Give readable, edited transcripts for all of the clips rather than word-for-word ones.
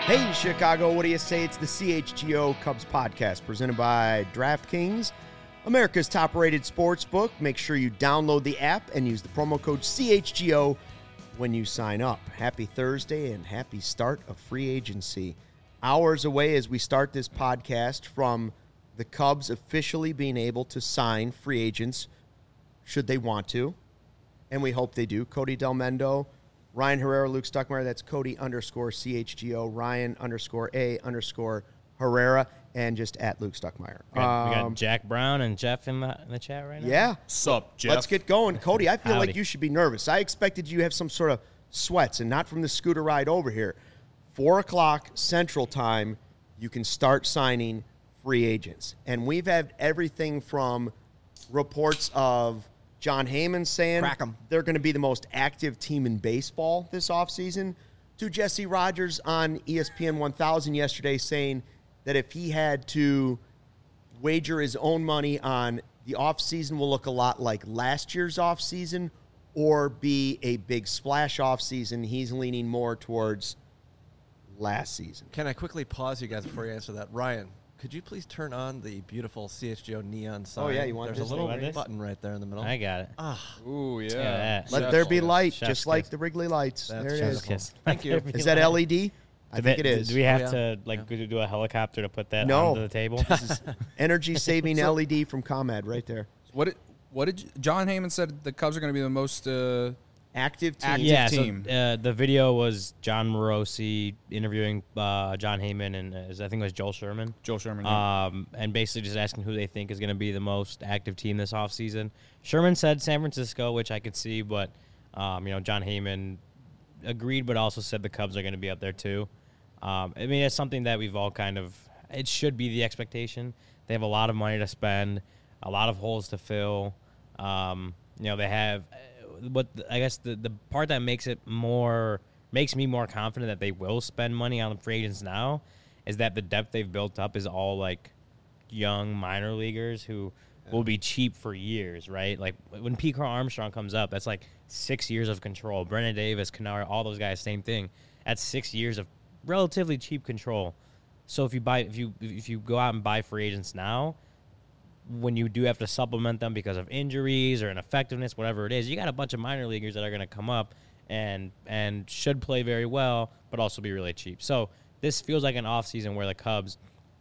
Hey, Chicago, what do you say? It's the CHGO Cubs podcast presented by DraftKings, America's top-rated sports book. Make sure you download the app and use the promo code CHGO when you sign up. Happy Thursday and happy start of free agency. Hours away as we start this podcast from the Cubs officially being able to sign free agents should they want to, and we hope they do. Cody Delmendo, Ryan Herrera, Luke Stuckmeyer. That's Cody_CHGO, Ryan_A_Herrera, and just at Luke Stuckmeyer. We got Jack Brown and Jeff in the chat right now. Yeah. Sup, Jeff? Let's get going. Cody, I feel Howdy. like you should be nervous. I expected you to have some sort of sweats and not from the scooter ride over here. 4 o'clock Central Time, you can start signing free agents. And we've had everything from reports of John Heyman saying Crack 'em. they're going to be the most active team in baseball this offseason, to Jesse Rogers on ESPN 1000 yesterday saying that if he had to wager his own money on the offseason will look a lot like last year's offseason or be a big splash offseason, he's leaning more towards last season. Can I quickly pause you guys before you answer that? Ryan, could you please turn on the beautiful CHGO neon sign? Oh, yeah, you want There's this a little thing like this? button right there in the middle. I got it. Ooh, yeah. that. Let Chef's there be kiss. light, Chef's just like kiss. the Wrigley lights. That's There it chef's is. kiss. Thank you. Is that LED? I think it is. Do we have Oh, to yeah. do a helicopter to put that No. onto the table? Energy-saving LED from ComEd right there. What did John Heyman said the Cubs are going to be the most Active team. Active yeah. team. So the video was John Morosi interviewing John Heyman and I think it was Joel Sherman. Joel Sherman? Yeah. And basically just asking who they think is going to be the most active team this offseason. Sherman said San Francisco, which I could see, but John Heyman agreed, but also said the Cubs are going to be up there too. I mean, it's something that we've all it should be the expectation. They have a lot of money to spend, a lot of holes to fill. They have, but I guess the part that makes me more confident that they will spend money on free agents now is that the depth they've built up is all like young minor leaguers who will be cheap for years, right? Like when Pete Crow Armstrong comes up, that's like 6 years of control. Brennan Davis, Canara, all those guys, same thing. That's 6 years of relatively cheap control. So if you go out and buy free agents now, when you do have to supplement them because of injuries or ineffectiveness, whatever it is, you got a bunch of minor leaguers that are going to come up and should play very well, but also be really cheap. So this feels like an offseason where the Cubs,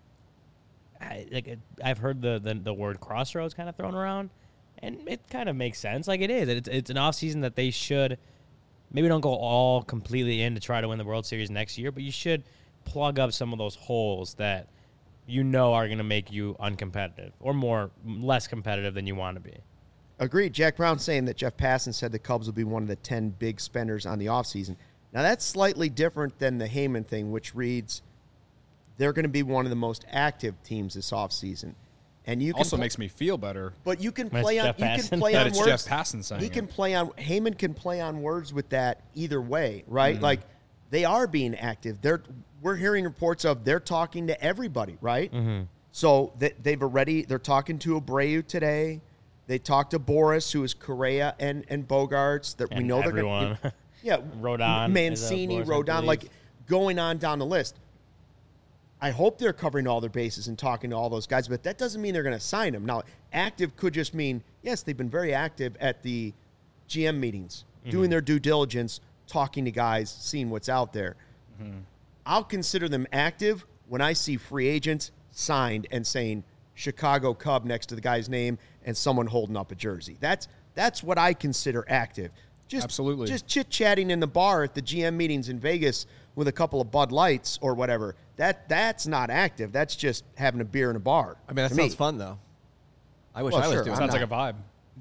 I've heard the word crossroads kind of thrown around, and it kind of makes sense. Like it is. It's an offseason that they should maybe don't go all completely in to try to win the World Series next year, but you should plug up some of those holes that are going to make you uncompetitive or less competitive than you want to be. Agreed. Jack Brown saying that Jeff Passan said the Cubs will be one of the 10 big spenders on the offseason. Now, that's slightly different than the Heyman thing, which reads they're going to be one of the most active teams this offseason. And you can also makes me feel better. But you can When it's play on Jeff Passan. That on it's words. Jeff Passan saying He it. can play on Heyman can play on words with that either way, right? Like they are being active. We're hearing reports of they're talking to everybody, right? Mm-hmm. So they're talking to Abreu today. They talked to Boris, who is Correa and Bogarts. That we And know everyone. they're going. Yeah, Rodon. Mancini, is a Boris, I Rodon, believe. like going on down the list. I hope they're covering all their bases and talking to all those guys, but that doesn't mean they're going to sign them. Now, active could just mean, yes, they've been very active at the GM meetings, doing their due diligence, talking to guys, seeing what's out there. I'll consider them active when I see free agents signed and saying Chicago Cub next to the guy's name and someone holding up a jersey. That's what I consider active. Absolutely. Just chit-chatting in the bar at the GM meetings in Vegas with a couple of Bud Lights or whatever. That's not active. That's just having a beer in a bar. I mean, that to sounds me. fun, though. I wish Well, I was sure. doing Sounds that. like a vibe.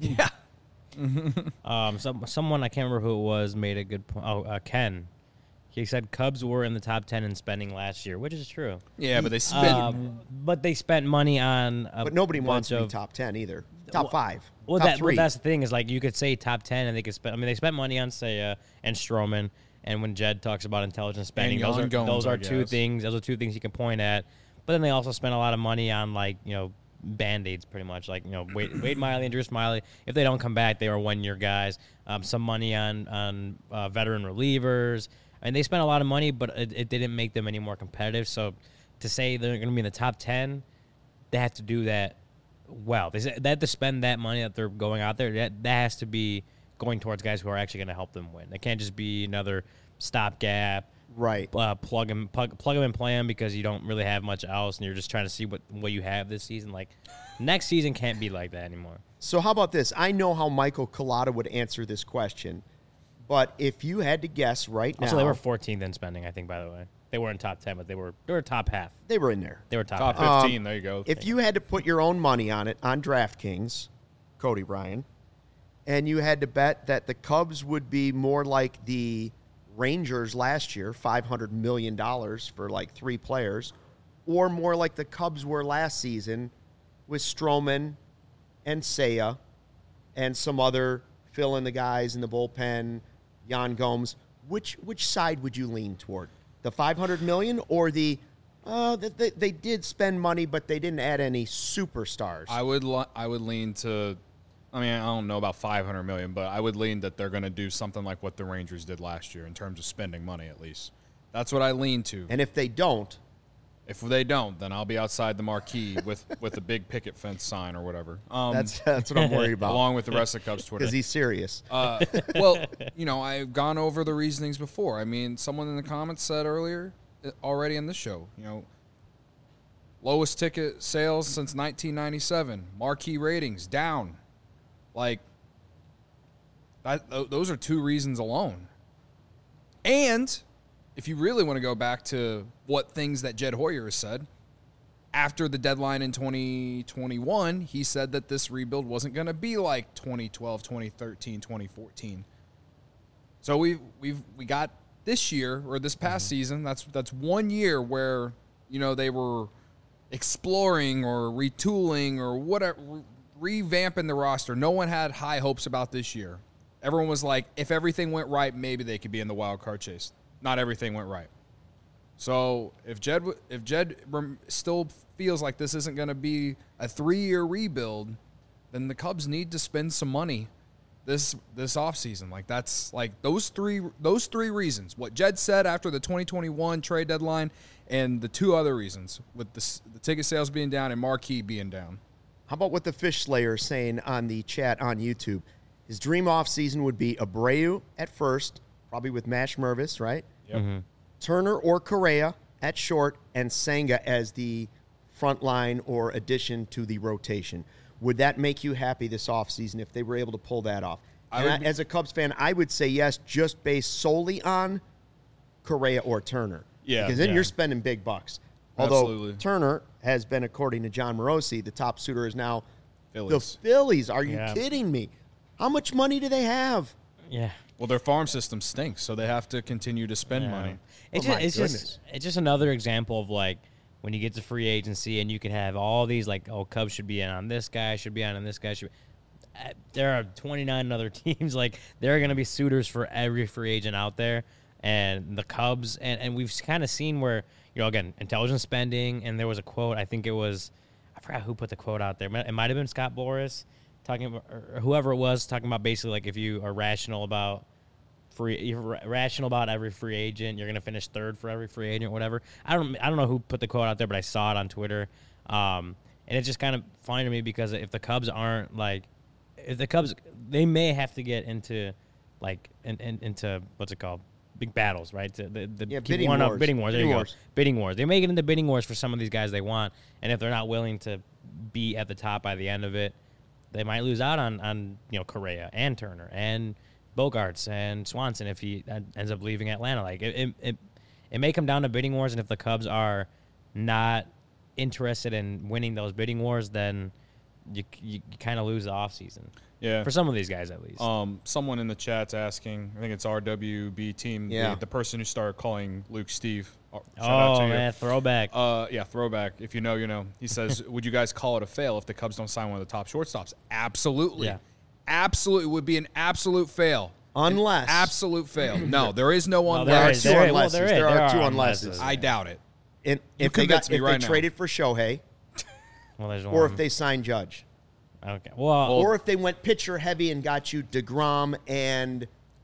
Yeah. Someone, I can't remember who it was, made a good point. Ken. He said Cubs were in the top 10 in spending last year, which is true. Yeah, but they spent. But they spent money on But nobody wants bunch to be of top 10 either. Top 5. Well, top 3. that's the thing is like you could say top 10 and they could spend. I mean, they spent money on Seiya and Stroman. And when Jed talks about intelligent spending, And Young Gomes, those I are two guess. things. Those are two things you can point at. But then they also spent a lot of money on Band-Aids pretty much. Like Wade Miley and Drew Smiley. If they don't come back, they were 1-year guys. Some money on veteran relievers. And they spent a lot of money, but it didn't make them any more competitive. So to say they're going to be in the top 10, they have to do that well. They have to spend that money that they're going out there. That has to be going towards guys who are actually going to help them win. It can't just be another stopgap. Right. Plug them and play them because you don't really have much else, and you're just trying to see what you have this season. Like, next season can't be like that anymore. So how about this? I know how Michael Collada would answer this question, but if you had to guess right now. Also, they were 14th in spending, I think, by the way. They weren't top 10, but they were top half. They were in there. They were top Top half. 15, there you go. If you had to put your own money on it, on DraftKings, Cody Ryan, and you had to bet that the Cubs would be more like the Rangers last year, $500 million for like 3 players, or more like the Cubs were last season with Stroman and Seiya and some other fill-in the guys in the bullpen, Yan Gomes, which side would you lean toward? The $500 million or the they did spend money, but they didn't add any superstars? I would lean to. I mean, I don't know about $500 million, but I would lean that they're going to do something like what the Rangers did last year in terms of spending money, at least. That's what I lean to. And if they don't, then I'll be outside the marquee with a big picket fence sign or whatever. that's what I'm worried about. Along with the rest of Cubs Twitter. Because he's serious. Well, I've gone over the reasonings before. I mean, someone in the comments said earlier, already in the show, lowest ticket sales since 1997, marquee ratings down. Like, those are 2 reasons alone. And if you really want to go back to what things that Jed Hoyer has said, after the deadline in 2021, he said that this rebuild wasn't going to be like 2012, 2013, 2014. So we got this year or this past season. That's 1 year where they were exploring or retooling or whatever, revamping the roster. No one had high hopes about this year. Everyone was like, if everything went right, maybe they could be in the wild card chase. Not everything went right. So if Jed still feels like this isn't going to be a 3-year rebuild, then the Cubs need to spend some money this offseason. Like, that's like those three reasons. What Jed said after the 2021 trade deadline, and the 2 other reasons with the ticket sales being down and marquee being down. How about what the Fish Slayer is saying on the chat on YouTube? His dream offseason would be Abreu at first, probably with Mash Mervis, right? Yep. Mm-hmm. Turner or Correa at short, and Senga as the front line or addition to the rotation. Would that make you happy this offseason if they were able to pull that off? As a Cubs fan, I would say yes, just based solely on Correa or Turner. Yeah. Because then you're spending big bucks. Although Absolutely. Turner has been, according to John Morosi, the top suitor is now Phillies. the Phillies. Are you Yeah. kidding me? How much money do they have? Yeah. Well, their farm system stinks, so they have to continue to spend money. It's my just another example of, like, when you get to free agency and you can have all these, like, Cubs should be in on this guy, should be on this guy. There are 29 other teams. Like, there are going to be suitors for every free agent out there. And the Cubs, and we've kind of seen where, again, intelligent spending, and there was a quote, I think it was, I forgot who put the quote out there. It might have been Scott Boras talking about, or whoever it was, talking about basically, like, if you are rational about every free agent, you're going to finish 3rd for every free agent, whatever. I don't know who put the quote out there, but I saw it on Twitter. And it's just kind of funny to me because if the Cubs aren't, like, they may have to get into, like, into, what's it called? Big battles, right? Bidding wars. Bidding wars. There you go. Bidding wars. They may get into bidding wars for some of these guys they want, and if they're not willing to be at the top by the end of it, they might lose out on Correa and Turner and Bogarts and Swanson if he ends up leaving Atlanta. Like it may come down to bidding wars, and if the Cubs are not interested in winning those bidding wars, then you kind of lose the offseason. Yeah. For some of these guys, at least. Someone in the chat's asking, I think it's RWB team, the person who started calling Luke Steve. Shout out to you. Man, throwback. Throwback. If you know, you know. He says, would you guys call it a fail if the Cubs don't sign one of the top shortstops? Absolutely. Yeah. Absolutely. It would be an absolute fail. Unless. An absolute fail. No, there is no unless. There are two unlesses. I doubt it. And You if they convince me right now. traded for Shohei, Well, there's or one. if they signed Judge, Okay. Well, or if they went pitcher heavy and got you DeGrom and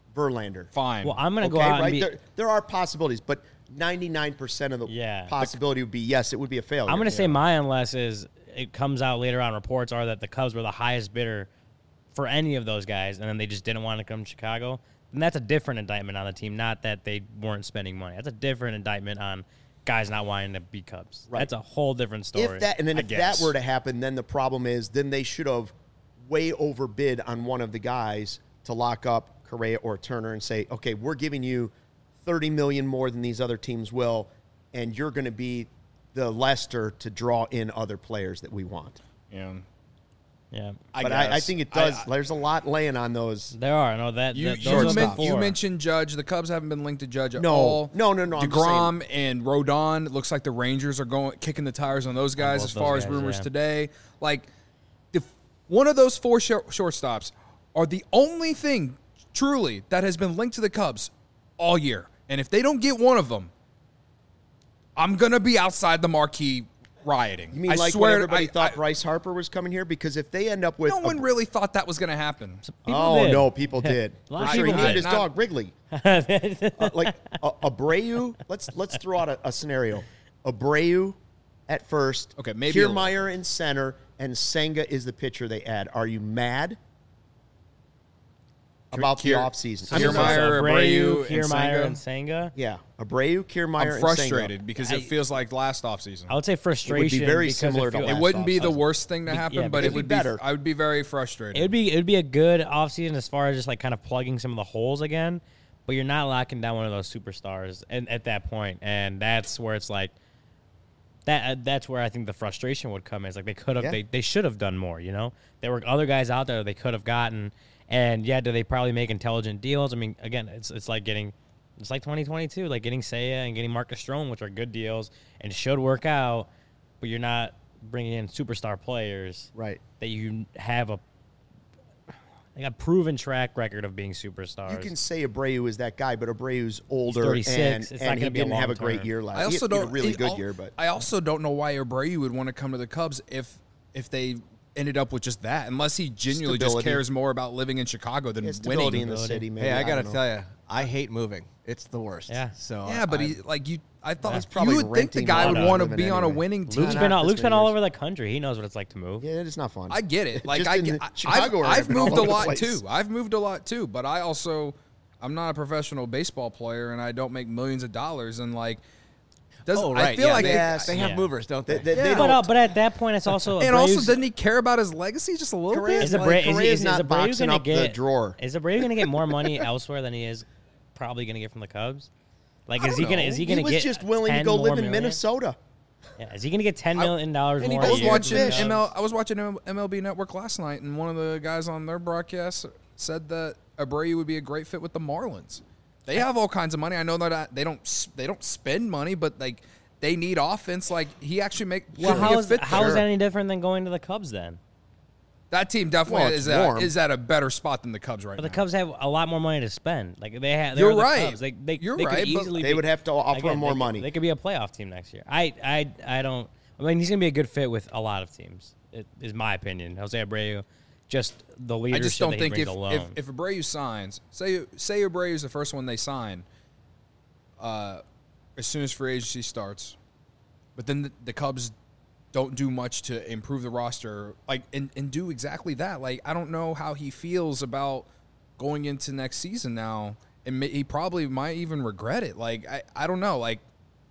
Verlander. Fine. Well, I'm going to go out and be. There are possibilities, but 99% of the possibility would be yes, it would be a failure. I'm going to say my unless is it comes out later on. Reports are that the Cubs were the highest bidder for any of those guys, and then they just didn't want to come to Chicago. And that's a different indictment on the team, not that they weren't spending money. That's a different indictment on guys not wanting to be Cubs. Right. That's a whole different story. If that were to happen, then the problem is then they should have way overbid on one of the guys to lock up Correa or Turner and say, okay, we're giving you $30 million more than these other teams will, and you're going to be the Lester to draw in other players that we want. Yeah. Yeah. I think it does. There's a lot laying on those. There are. No, that You those are the four. mentioned Judge. The Cubs haven't been linked to Judge at No. all. No. I'm just DeGrom and Rodon. It looks like the Rangers are kicking the tires on those guys both as far those as guys, rumors yeah. today. Like, one of those four shortstops are the only thing truly that has been linked to the Cubs all year. And if they don't get one of them, I'm gonna be outside the marquee rioting. You mean I like swear, when everybody thought Bryce Harper was coming here? Because if they end up with no one really thought that was gonna happen. People did. no, people did. A lot For of sure, he people named did. his dog Wrigley. Like Abreu. Let's throw out a scenario. Abreu at first. Okay, maybe Kiermaier in center, and Senga is the pitcher they add. Are you mad about the offseason? Kiermaier, Abreu, and Kiermaier, and Senga. Senga. Yeah, Abreu, Kiermaier, I'm frustrated and because it feels like last offseason. I would say frustration. very because similar to feels- last It wouldn't be the offseason. worst thing to happen, yeah, but it'd it would be be better. I would be very frustrated. It'd be a good offseason as far as just like kind of plugging some of the holes again, but you're not locking down one of those superstars at that point, and that's where it's like that's where I think the frustration would come. Is like they could have they should have done more. You know, there were other guys out there they could have gotten, and do they probably make intelligent deals? I mean, again, it's like 2022, like getting Seiya and getting Marcus Stroman, which are good deals and should work out, but you're not bringing in superstar players, right. that you have a proven track record of being superstars. You can say Abreu is that guy, but Abreu's older 36. and It's not he gonna be a didn't have a long great term. year last. I also he had don't a really good year, but I also don't know why Abreu would want to come to the Cubs if they ended up with just that, unless he genuinely just Stability. cares more about living in Chicago than stability winning. in the city. Maybe. Hey, I got to don't know. tell you, I hate moving. It's the worst. Yeah. So Yeah, but I I thought He's probably you would think the renting guy one would out want to living be on a anyway. winning team. Luke's Not been this all many over the country. He knows what it's like to move. Yeah, it's not fun. I get it. Like Just in Chicago, I've moved a lot place. too. I've moved a lot too, but I'm not a professional baseball player, and I don't make millions of dollars. And like, Oh, right. I feel yeah, like they, Yes. they have Yeah. movers, don't they? They Yeah. don't. But at that point, it's also and also, Abreu's- doesn't he care about his legacy just a little Correa's bit? like- Correa's not Abreu boxing gonna up the drawer. Is Abreu going to get more money elsewhere than he is probably going to get from the Cubs? Like, I is he don't going to? know. Is he He going to was get? just willing to 10 go more live in million? Minnesota. Yeah, is he going to get $10 million more? and he a I was doesn't year watching from the fish. Cubs? I was watching MLB Network last night, and one of the guys on their broadcast said that Abreu would be a great fit with the Marlins. They have all kinds of money. I know that they don't spend money, but like they need offense. Like he actually Well, could be how a is fit how there. is that any different than going to the Cubs then? That team definitely Well, it's is warm. at a better spot than the Cubs right But now. the Cubs have a lot more money to spend. Like they have. You're they're the right. Cubs. They You're they right, Could but easily They be- would have to offer again, him more they could- money. They could be a playoff team next year. I don't. I mean, he's gonna be a good fit with a lot of teams. It is my opinion. Jose Abreu, just the I leadership just don't that he think brings alone. if Abreu signs, say Abreu's the first one they sign, as soon as free agency starts, but then the Cubs don't do much to improve the roster, like and do exactly that. Like I don't know how he feels about going into next season now, and he probably might even regret it. Like I don't know. Like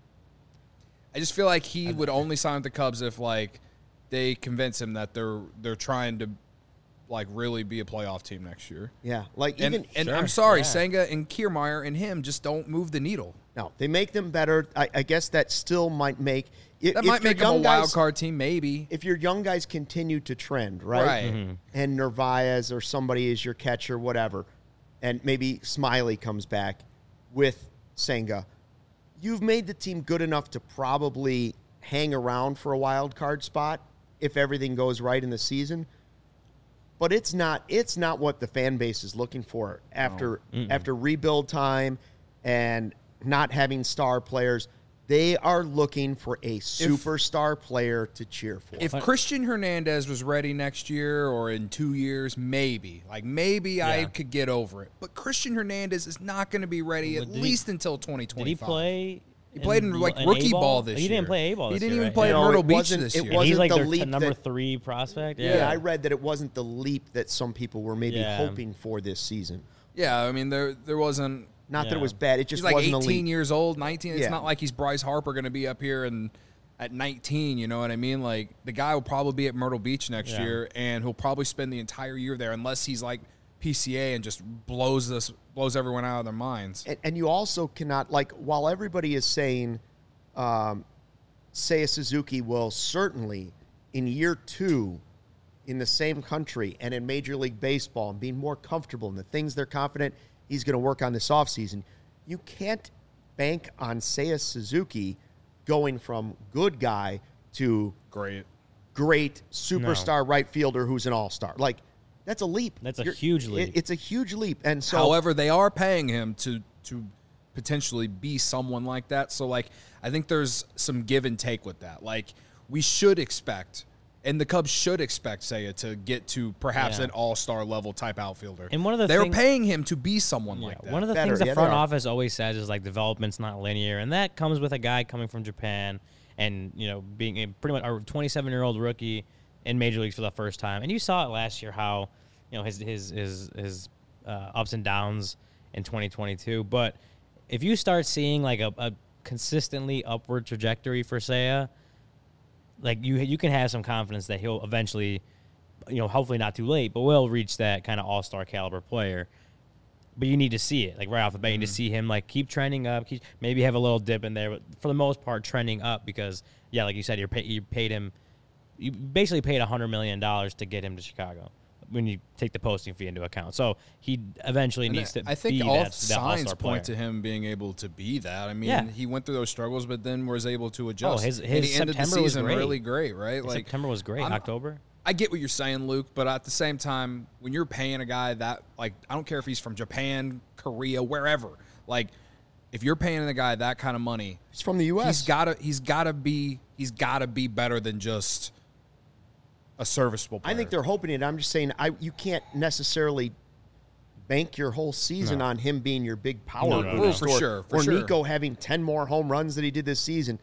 I just feel like he would only sign with the Cubs if like they convince him that they're trying to like really be a playoff team next year. Yeah, like And even Sure, I'm sorry, yeah. Senga and Kiermaier and him just don't move the needle. no, they make them better. I guess that still might make That might make them a wild card team, maybe. If your young guys continue to trend, right? Right. Mm-hmm. And Narvaez or somebody is your catcher, whatever, and maybe Smiley comes back with Senga, you've made the team good enough to probably hang around for a wild card spot if everything goes right in the season. But it's not what the fan base is looking for after rebuild time and not having star players. They are looking for a superstar player to cheer for. If Christian Hernandez was ready next year or in 2 years, maybe. I could get over it. But Christian Hernandez is not going to be ready at least until 2025. Did he play? He played in rookie ball this year. He didn't play A-ball this year. He didn't even right? play at Myrtle Beach this year. It And wasn't he's like the their leap number that- 3 prospect. Yeah, I read that it wasn't the leap that some people were maybe Yeah. hoping for this season. Yeah, I mean, there wasn't. Not that it Yeah. was bad. It just He's like wasn't 18 a leap. years old, 19. It's Yeah. not like he's Bryce Harper going to be up here and at 19. You know what I mean? Like the guy will probably be at Myrtle Beach next Yeah. year, and he'll probably spend the entire year there unless he's like PCA and just blows everyone out of their minds. And you also cannot, like, while everybody is saying Seiya Suzuki will certainly, in year 2, in the same country and in Major League Baseball and being more comfortable in the things they're confident he's going to work on this offseason, you can't bank on Seiya Suzuki going from good guy to Great. great superstar right fielder who's an all-star. Like, that's a leap. That's a huge leap. It's a huge leap. And so, However, they are paying him to potentially be someone like that. So, like, I think there's some give and take with that. Like, we should expect, and the Cubs should expect Seiya to get to perhaps Yeah. an all-star level type outfielder. And one of the they're things- paying him to be someone like that. One of the Better, things the yeah, front they are. office always says is like development's not linear, and that comes with a guy coming from Japan and being a pretty much a 27-year-old rookie in major leagues for the first time. And you saw it last year how his ups and downs in 2022. But if you start seeing like a consistently upward trajectory for Seiya, like you can have some confidence that he'll eventually, hopefully not too late, but will reach that kind of all-star caliber player. But you need to see it, like right off the bat. You need to see him like keep trending up, maybe have a little dip in there, but for the most part, trending up because, yeah, like you said, you paid him, you basically paid $100 million to get him to Chicago when you take the posting fee into account. So he eventually needs to. I think be all that signs all-star point player. to him being able to be that. I mean, Yeah. he went through those struggles, but then was able to adjust. his and he ended the September was season great. really great, right? Like September was great. October. I get what you're saying, Luke, but at the same time, when you're paying a guy that, like, I don't care if he's from Japan, Korea, wherever, like, if you're paying a guy that kind of money, he's from the U.S. he's gotta be better than just a serviceable player. I think they're hoping it. I'm just saying you can't necessarily bank your whole season on him being your big power boost. For sure. Or Nico having 10 more home runs that he did this season.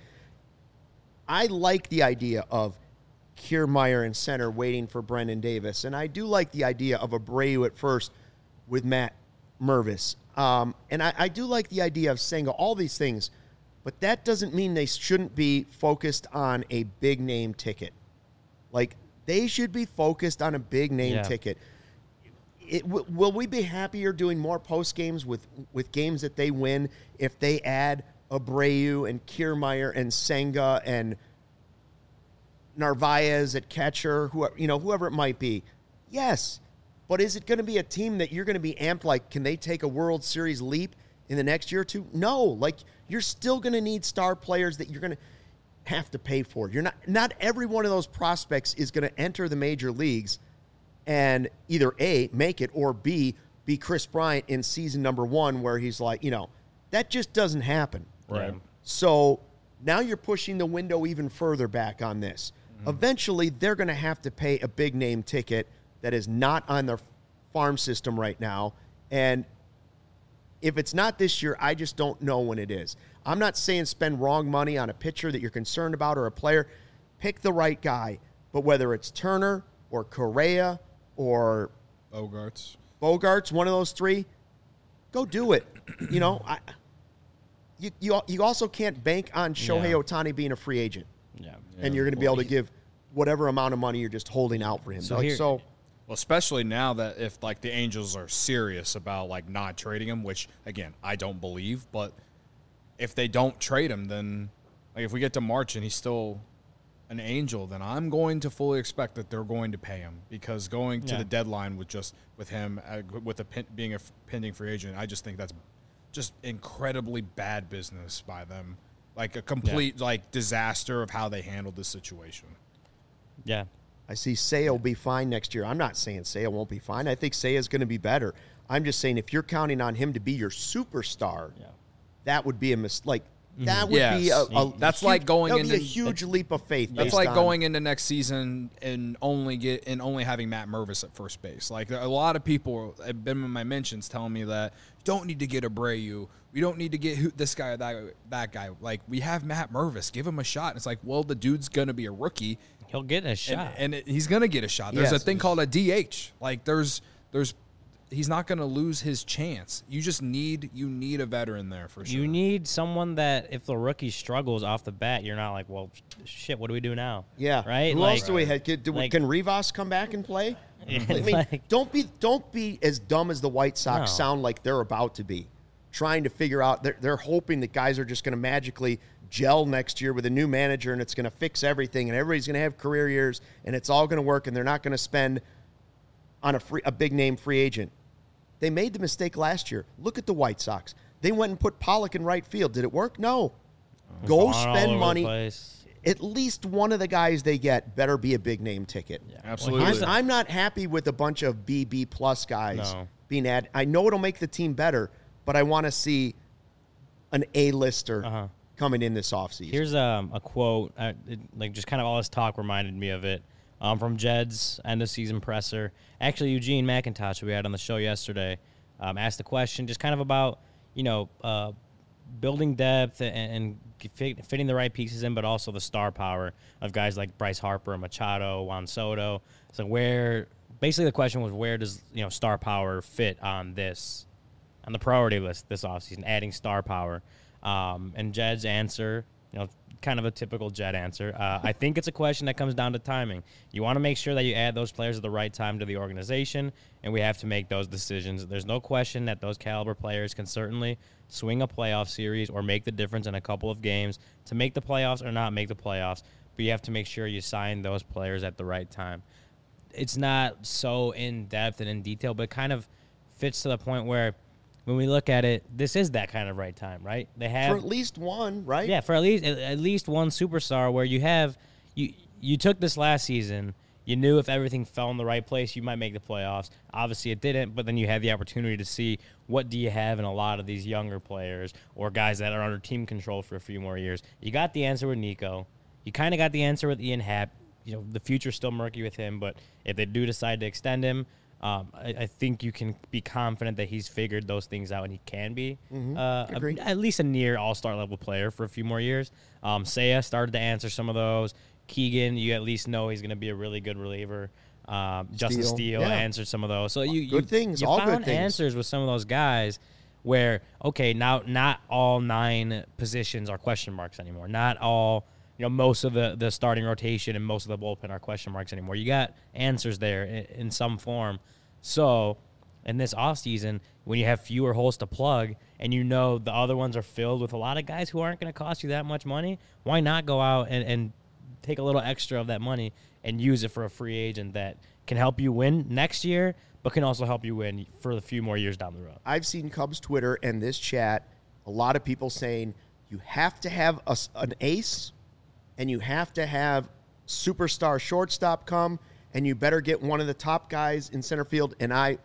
I like the idea of Kiermaier in center waiting for Brendan Davis. And I do like the idea of Abreu at first with Matt Mervis. And I do like the idea of Senga, all these things. But that doesn't mean they shouldn't be focused on a big-name ticket. Like, they should be focused on a big-name ticket. Will we be happier doing more post games with games that they win if they add Abreu and Kiermaier and Senga and Narvaez at catcher, whoever it might be? Yes, but is it going to be a team that you're going to be amped? Like, can they take a World Series leap in the next year or two? No, like you're still going to need star players that you're going to have to pay for. You're not every one of those prospects is going to enter the major leagues and either A, make it, or B, be Chris Bryant in season number 1 where he's like, that just doesn't happen. Right. So now you're pushing the window even further back on this. Mm-hmm. Eventually, they're going to have to pay a big-name ticket that is not on their farm system right now. And if it's not this year, I just don't know when it is. I'm not saying spend wrong money on a pitcher that you're concerned about or a player. Pick the right guy. But whether it's Turner or Correa or Bogarts, one of those three, go do it. You also can't bank on Shohei Ohtani being a free agent. Yeah. And you're going to be able to give whatever amount of money you're just holding out for him. Well, especially now that if, like, the Angels are serious about, like, not trading him, which, again, I don't believe, but if they don't trade him, then, like, if we get to March and he's still an Angel, then I'm going to fully expect that they're going to pay him because going to the deadline with him being a pending free agent, I just think that's just incredibly bad business by them. Like a complete disaster of how they handled this situation. Yeah. I see Seiya will be fine next year. I'm not saying Seiya won't be fine. I think Seiya is going to be better. I'm just saying if you're counting on him to be your superstar, that would be a mistake. Like, That would be That's like going that would be a into- huge leap of faith. That's based like on- going into next season and only having Matt Mervis at first base. Like a lot of people have been in my mentions telling me that you don't need to get Abreu. We don't need to get this guy or that guy. Like we have Matt Mervis. Give him a shot. And it's like, well, the dude's gonna be a rookie. He'll get a shot. He's gonna get a shot. There's Yes. a thing called a DH. Like he's not gonna lose his chance. You need a veteran there for sure. You need someone that if the rookie struggles off the bat, you're not like, well, shit, what do we do now? Yeah. Right? Who Like- else do we have? Can Rivas come back and play? I mean, Like- don't be as dumb as the White Sox No. sound like they're about to be. Trying to figure out, they're hoping that guys are just going to magically gel next year with a new manager and it's going to fix everything and everybody's going to have career years and it's all going to work and they're not going to spend on a big name free agent. They made the mistake last year. Look at the White Sox. They went and put Pollock in right field. Did it work? No. Go All over spend the money. place. At least one of the guys they get better be a big name ticket. Absolutely. I'm not happy with a bunch of B plus guys No. being added. I know it'll make the team better, but I want to see an A-lister coming in this offseason. Here's a quote, like just kind of all this talk reminded me of it, from Jed's end of season presser. Actually, Eugene McIntosh, who we had on the show yesterday, asked the question just kind of about, building depth and fitting the right pieces in, but also the star power of guys like Bryce Harper, Machado, Juan Soto. So basically the question was, where does, star power fit on the priority list this offseason, adding star power? And Jed's answer, kind of a typical Jed answer. I think it's a question that comes down to timing. You want to make sure that you add those players at the right time to the organization, and we have to make those decisions. There's no question that those caliber players can certainly swing a playoff series or make the difference in a couple of games to make the playoffs or not make the playoffs, but you have to make sure you sign those players at the right time. It's not so in-depth and in detail, but it kind of fits to the point where when we look at it, this is that kind of right time, right? They have for at least one, right? Yeah, for at least one superstar where you took this last season, you knew if everything fell in the right place, you might make the playoffs. Obviously it didn't, but then you had the opportunity to see what do you have in a lot of these younger players or guys that are under team control for a few more years. You got the answer with Nico. You kind of got the answer with Ian Happ. The future's still murky with him, but if they do decide to extend him, I think you can be confident that he's figured those things out and he can be at least a near all-star level player for a few more years. Seiya started to answer some of those. Keegan, you at least know he's going to be a really good reliever. Justin Steele answered some of those. So you found answers with some of those guys where, okay, now not all 9 positions are question marks anymore. Not all, most of the starting rotation and most of the bullpen are question marks anymore. You got answers there in some form. So in this offseason, when you have fewer holes to plug and the other ones are filled with a lot of guys who aren't going to cost you that much money, why not go out and take a little extra of that money and use it for a free agent that can help you win next year, but can also help you win for a few more years down the road? I've seen Cubs Twitter and this chat, a lot of people saying you have to have an ace and you have to have superstar shortstop come, and you better get one of the top guys in center field. And I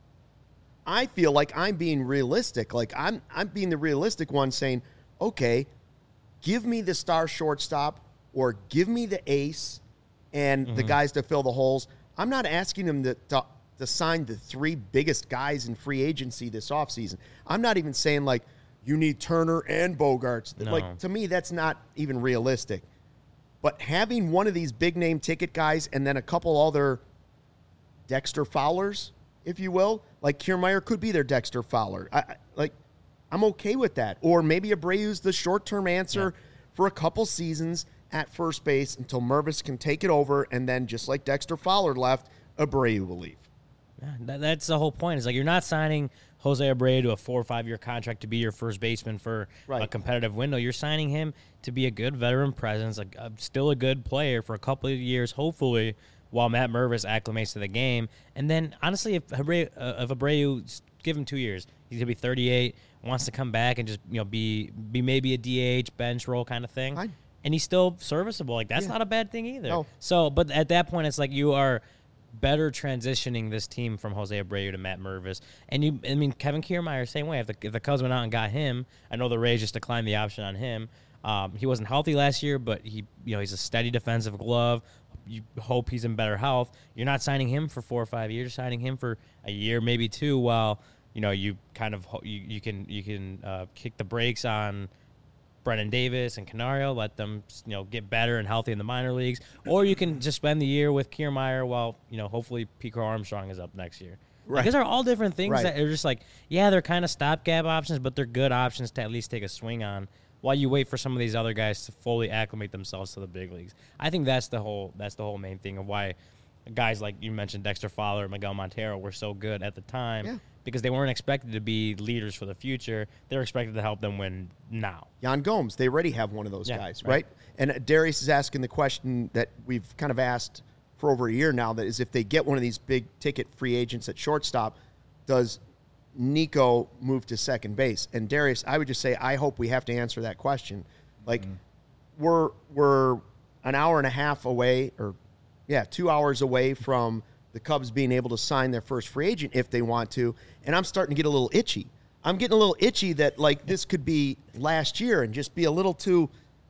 feel like I'm being realistic. Like I'm being the realistic one saying, okay, give me the star shortstop or give me the ace and the guys to fill the holes. I'm not asking them to sign the 3 biggest guys in free agency this offseason. I'm not even saying, like, you need Turner and Bogarts. No. Like, to me, that's not even realistic. But having one of these big-name ticket guys and then a couple other Dexter Fowlers, if you will, like Kiermaier could be their Dexter Fowler. I'm okay with that. Or maybe Abreu's the short-term answer for a couple seasons at first base until Mervis can take it over, and then just like Dexter Fowler left, Abreu will leave. Yeah, that's the whole point. It's like you're not signing Jose Abreu to a 4 or 5 year contract to be your first baseman for a competitive window. You're signing him to be a good veteran presence, still a good player for a couple of years, hopefully, while Matt Mervis acclimates to the game. And then, honestly, if Abreu, give him 2 years, he's going to be 38, wants to come back and just be maybe a DH, bench role kind of thing. And he's still serviceable. Like, that's not a bad thing either. No. So, but at that point, it's like you are better transitioning this team from Jose Abreu to Matt Mervis. And Kevin Kiermaier, same way. If the Cubs went out and got him, I know the Rays just declined the option on him. He wasn't healthy last year, but he's a steady defensive glove. You hope he's in better health. You're not signing him for 4 or 5 years. You're signing him for a year, maybe 2, while you kind of you can kick the brakes on Brennan Davis and Canario, let them get better and healthy in the minor leagues, or you can just spend the year with Kiermaier while hopefully Pico Armstrong is up next year. Right. Like, these are all different things Right. that are just like, yeah, they're kind of stopgap options, but they're good options to at least take a swing on while you wait for some of these other guys to fully acclimate themselves to the big leagues. I think that's the whole main thing of why guys like you mentioned, Dexter Fowler and Miguel Montero, were so good at the time. Yeah. Because they weren't expected to be leaders for the future. They were expected to help them win now. Jan Gomes, they already have one of those Yeah, guys, right. right? And Darius is asking the question that we've kind of asked for over a year now, that is, if they get one of these big-ticket free agents at shortstop, does Nico move to second base? And Darius, I would just say, I hope we have to answer that question. Like, we're an hour and a half away, 2 hours away from the Cubs being able to sign their first free agent if they want to, and I'm starting to get a little itchy. I'm getting a little itchy that, like, this could be last year and just be a little too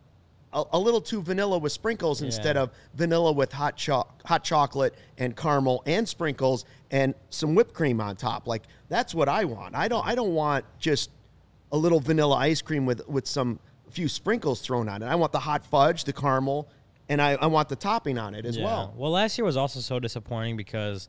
vanilla with sprinkles instead of vanilla with hot chocolate and caramel and sprinkles and some whipped cream on top. Like, that's what I want. I don't want just a little vanilla ice cream with a few sprinkles thrown on it. I want the hot fudge, the caramel, and I want the topping on it as well. Well, last year was also so disappointing because,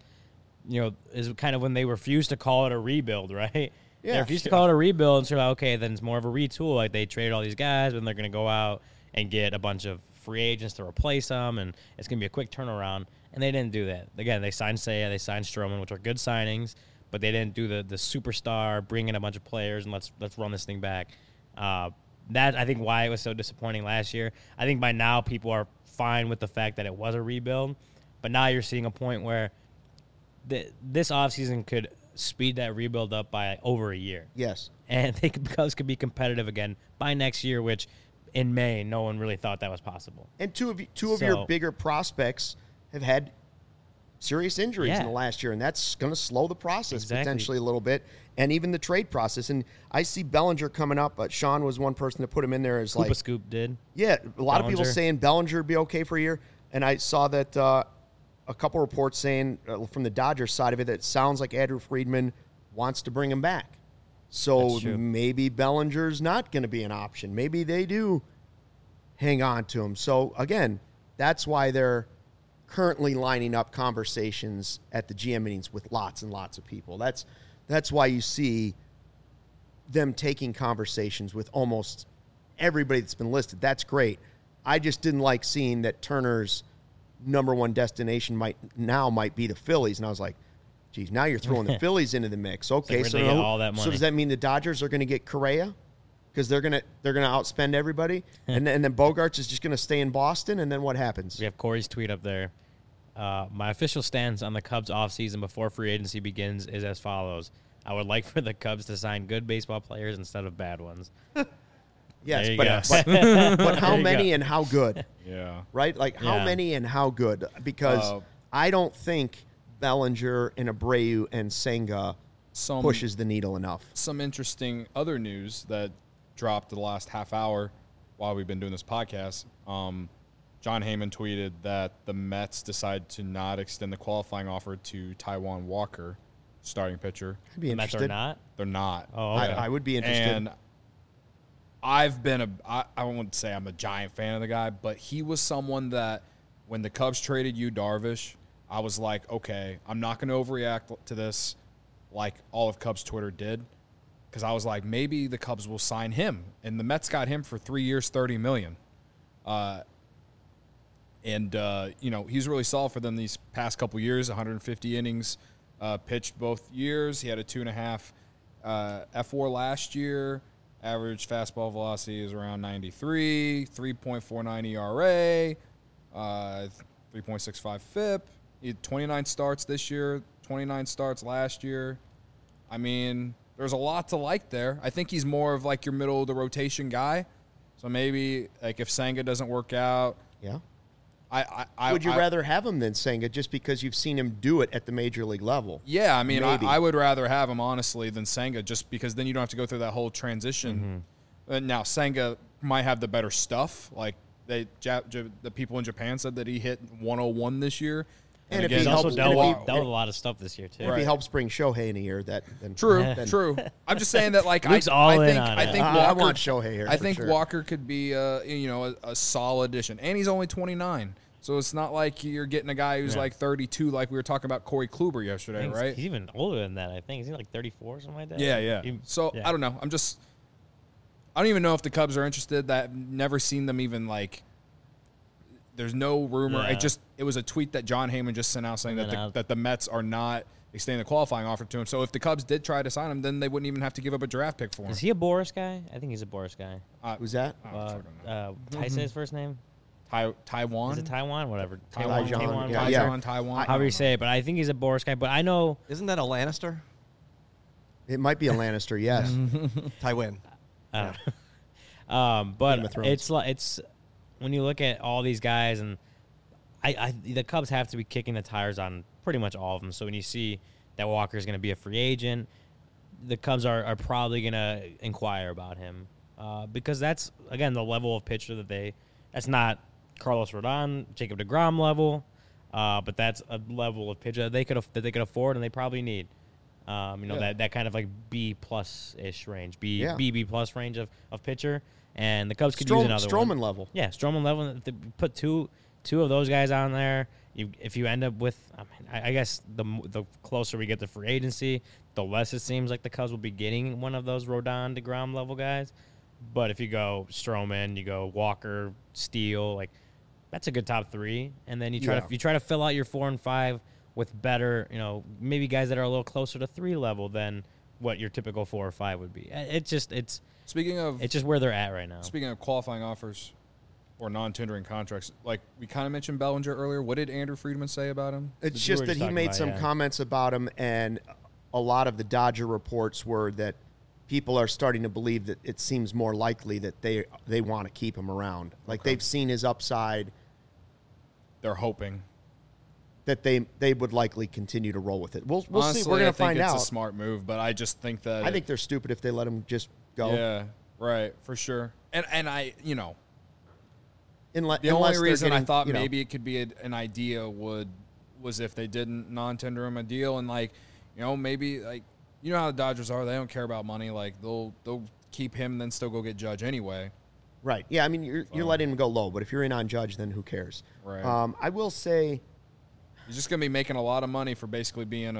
is kind of when they refused to call it a rebuild, right? Yeah. They refused to call it a rebuild, and so, okay, then it's more of a retool. Like, they traded all these guys, and they're going to go out and get a bunch of free agents to replace them, and it's going to be a quick turnaround. And they didn't do that. Again, they signed Seiya, they signed Stroman, which are good signings, but they didn't do the superstar, bring in a bunch of players, and let's run this thing back. That, I think, why it was so disappointing last year. I think by now people are fine with the fact that it was a rebuild, but now you're seeing a point where this offseason could speed that rebuild up by over a year. Yes. And the Cubs could be competitive again by next year, which in May no one really thought that was possible. And two of your bigger prospects have had serious injuries in the last year, and that's going to slow the process potentially a little bit, and even the trade process. And I see Bellinger coming up, but Sean was one person to put him in there as Koopa like Scoop did. Yeah, a lot of people Bellinger. saying Bellinger would be okay for a year, and I saw that a couple reports saying from the Dodgers side of it that it sounds like Andrew Friedman wants to bring him back. So That's true. maybe Bellinger's not going to be an option. Maybe they do hang on to him. So again, that's why they're currently lining up conversations at the GM meetings with lots and lots of people. That's why you see them taking conversations with almost everybody that's been listed. That's great. I just didn't like seeing that Turner's number one destination might be the Phillies, and I was like, geez, now you're throwing the Phillies into the mix. Okay, where'd they get all that so money? does that mean the Dodgers are going to get Correa because they're gonna outspend everybody, and then Bogarts is just going to stay in Boston, and then what happens? We have Corey's tweet up there. My official stance on the Cubs offseason before free agency begins is as follows. I would like for the Cubs to sign good baseball players instead of bad ones. Yes, There you but how There you many go. and how good? Yeah. Right? Like, how Yeah. many and how good? Because I don't think Bellinger and Abreu and Senga pushes the needle enough. Some interesting other news that dropped the last half hour while we've been doing this podcast. John Heyman tweeted that the Mets decided to not extend the qualifying offer to Taijuan Walker, starting pitcher. I'd be The Mets interested. are not. They're not. Oh, okay. I would be interested. And I've been I won't say I'm a giant fan of the guy, but he was someone that when the Cubs traded Yu Darvish, I was like, okay, I'm not going to overreact to this like all of Cubs Twitter did, because I was like, maybe the Cubs will sign him, and the Mets got him for 3 years, $30 million. He's really solid for them these past couple years. 150 innings pitched both years. He had a 2.5 F4 last year. Average fastball velocity is around 93, 3.49 ERA, 3.65 FIP. He had 29 starts this year, 29 starts last year. I mean, there's a lot to like there. I think he's more of like your middle of the rotation guy. So maybe like if Senga doesn't work out, Yeah. Would you rather have him than Senga just because you've seen him do it at the major league level? Yeah, I mean, Maybe. I would rather have him, honestly, than Senga, just because then you don't have to go through that whole transition. Now, Senga might have the better stuff. Like, the people in Japan said that he hit 101 this year. And if He's he also helps, dealt if with a lot of stuff this year, too. he helps bring Shohei in a year, then True. I'm just saying that, like, Luke's all in on I it. think I Walker, want Shohei here. I for think sure. Walker could be, a solid addition, and he's only 29, so it's not like you're getting a guy who's like 32, like we were talking about Corey Kluber yesterday, right? He's even older than that, I think. Is he like 34 or something like that? Yeah. So yeah. I don't know. I don't even know if the Cubs are interested. I've never seen them even like. There's no rumor. Yeah. It was a tweet that John Heyman just sent out saying And then that the Mets are not extending the qualifying offer to him. So if the Cubs did try to sign him, then they wouldn't even have to give up a draft pick for him. Is he a Boris guy? I think he's a Boris guy. Who's that? How you say his first name? Taiwan? Is it Taiwan? Whatever. Taiwan, Taiwan. yeah. Taiwan. However you say it, but I think he's a Boris guy. But I know. Isn't that a Lannister? It might be a Lannister, yes. Tywin. But Game of Thrones. it's when you look at all these guys, and the Cubs have to be kicking the tires on pretty much all of them. So when you see that Walker's going to be a free agent, the Cubs are probably going to inquire about him because that's, again, the level of pitcher that's not Carlos Rodon, Jacob deGrom level, but that's a level of pitcher that they could afford and they probably need. That kind of like B plus ish range, B plus range of pitcher, and the Cubs could use another Stroman one. level. Yeah, Stroman level. If they put two of those guys on there, if you end up with, I guess the closer we get to free agency, the less it seems like the Cubs will be getting one of those Rodon, deGrom level guys. But if you go Stroman, you go Walker, Steele, like that's a good top three, and then you try to fill out your 4 and 5 with better, maybe guys that are a little closer to 3 level than what your typical 4 or 5 would be. It's just where they're at right now. Speaking of qualifying offers or non-tendering contracts, like we kind of mentioned Bellinger earlier. What did Andrew Friedman say about him? It's We just were that just he talking made about, some yeah. comments about him, and a lot of the Dodger reports were that people are starting to believe that it seems more likely that they want to keep him around. Like they've seen his upside, They're hoping. that they would likely continue to roll with it. We'll Honestly, see. We're going to find it's out. a smart move, but I just think that I think they're stupid if they let him just go. Yeah, right, for sure. And I, Unless, the only reason I getting, thought maybe it could be an idea was if they didn't non-tender him a deal, and maybe how the Dodgers are, they don't care about money. Like they'll keep him, then still go get Judge anyway. Right. Yeah. I mean, you're letting him go low, but if you're in on Judge, then who cares? Right. I will say. He's just going to be making a lot of money for basically being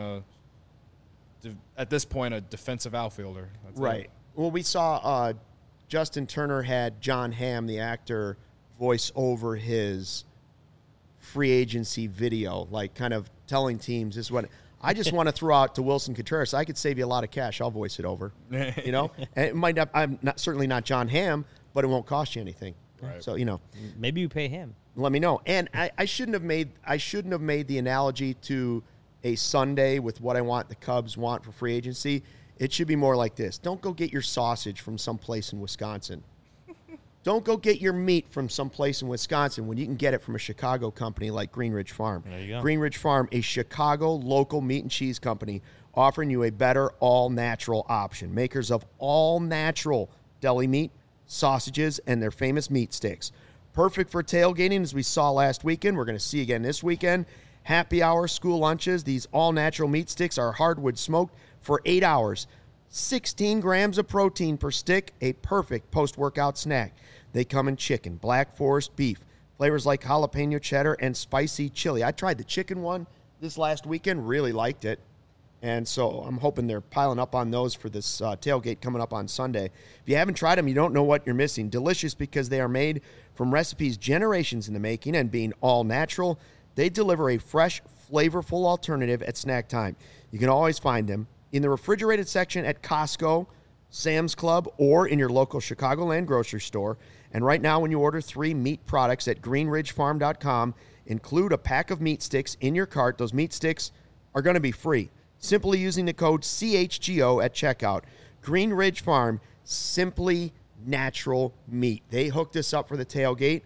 at this point, a defensive outfielder. That's Right. it. Well, we saw Justin Turner had John Hamm, the actor, voice over his free agency video, like kind of telling teams this is what I just want to throw out to Wilson Contreras. I could save you a lot of cash. I'll voice it over. And it might not. Certainly not John Hamm, but it won't cost you anything. Right. So Maybe you pay him. let me know. And I shouldn't have made the analogy to a Sunday with what I want the Cubs want for free agency. It should be more like this. Don't go get your sausage from someplace in Wisconsin. Don't go get your meat from someplace in Wisconsin when you can get it from a Chicago company like Greenridge Farm. There you go. Greenridge Farm, a Chicago local meat and cheese company offering you a better all-natural option. Makers of all-natural deli meat, sausages, and their famous meat sticks. Perfect for tailgating, as we saw last weekend. We're going to see again this weekend. Happy hour, school lunches. These all-natural meat sticks are hardwood smoked for 8 hours. 16 grams of protein per stick, a perfect post-workout snack. They come in chicken, Black Forest beef, flavors like jalapeno cheddar and spicy chili. I tried the chicken one this last weekend, really liked it. And so I'm hoping they're piling up on those for this tailgate coming up on Sunday. If you haven't tried them, you don't know what you're missing. Delicious because they are made from recipes generations in the making, and being all natural, they deliver a fresh, flavorful alternative at snack time. You can always find them in the refrigerated section at Costco, Sam's Club, or in your local Chicagoland grocery store. And right now, when you order 3 meat products at greenridgefarm.com, include a pack of meat sticks in your cart. Those meat sticks are going to be free. Simply using the code CHGO at checkout. Green Ridge Farm, simply natural meat. They hooked us up for the tailgate.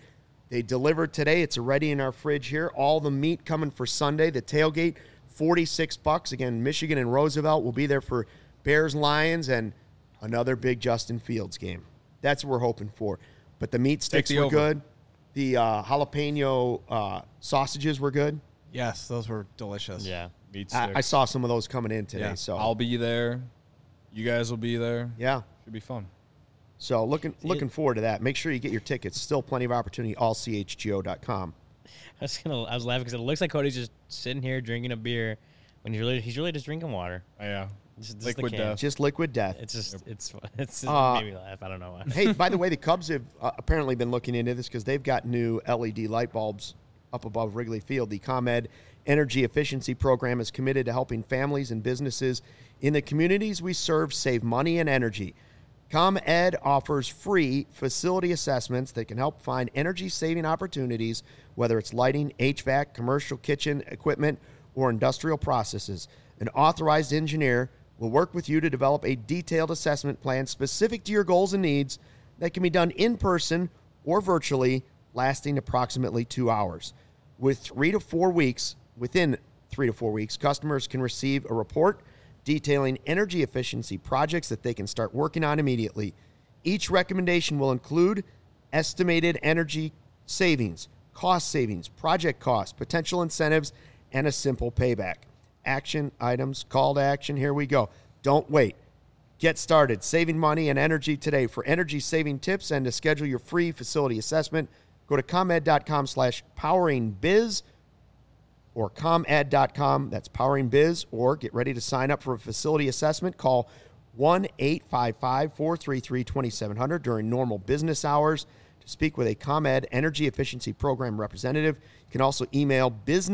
They delivered today. It's already in our fridge here. All the meat coming for Sunday. The tailgate, $46. Again, Michigan and Roosevelt will be there for Bears-Lions and another big Justin Fields game. That's what we're hoping for. But the meat sticks were good. The jalapeno sausages were good. Yes, those were delicious. Yeah. Meat I sticks. saw some of those coming in today. Yeah. So I'll be there. You guys will be there. yeah. Should be fun. So looking forward to that. Make sure you get your tickets. Still plenty of opportunity. Allchgo.com. I was laughing because it looks like Cody's just sitting here drinking a beer when he's really just drinking water. Yeah. Just Liquid the can. death. Just liquid death. It's just it's just made me laugh. I don't know why. Hey, by the way, the Cubs have apparently been looking into this because they've got new LED light bulbs up above Wrigley Field. The ComEd Energy Efficiency Program is committed to helping families and businesses in the communities we serve save money and energy. ComEd offers free facility assessments that can help find energy-saving opportunities, whether it's lighting, HVAC, commercial kitchen equipment, or industrial processes. An authorized engineer will work with you to develop a detailed assessment plan specific to your goals and needs that can be done in person or virtually, lasting approximately 2 hours. Within 3 to 4 weeks, customers can receive a report detailing energy efficiency projects that they can start working on immediately. Each recommendation will include estimated energy savings, cost savings, project costs, potential incentives, and a simple payback. Action items, call to action. Here we go. Don't wait. Get started saving money and energy today. For energy saving tips and to schedule your free facility assessment, go to comed.com/poweringbiz or comed.com. That's poweringbiz. Or get ready to sign up for a facility assessment. Call 1-855-433-2700 during normal business hours to speak with a ComEd Energy Efficiency Program representative. You can also email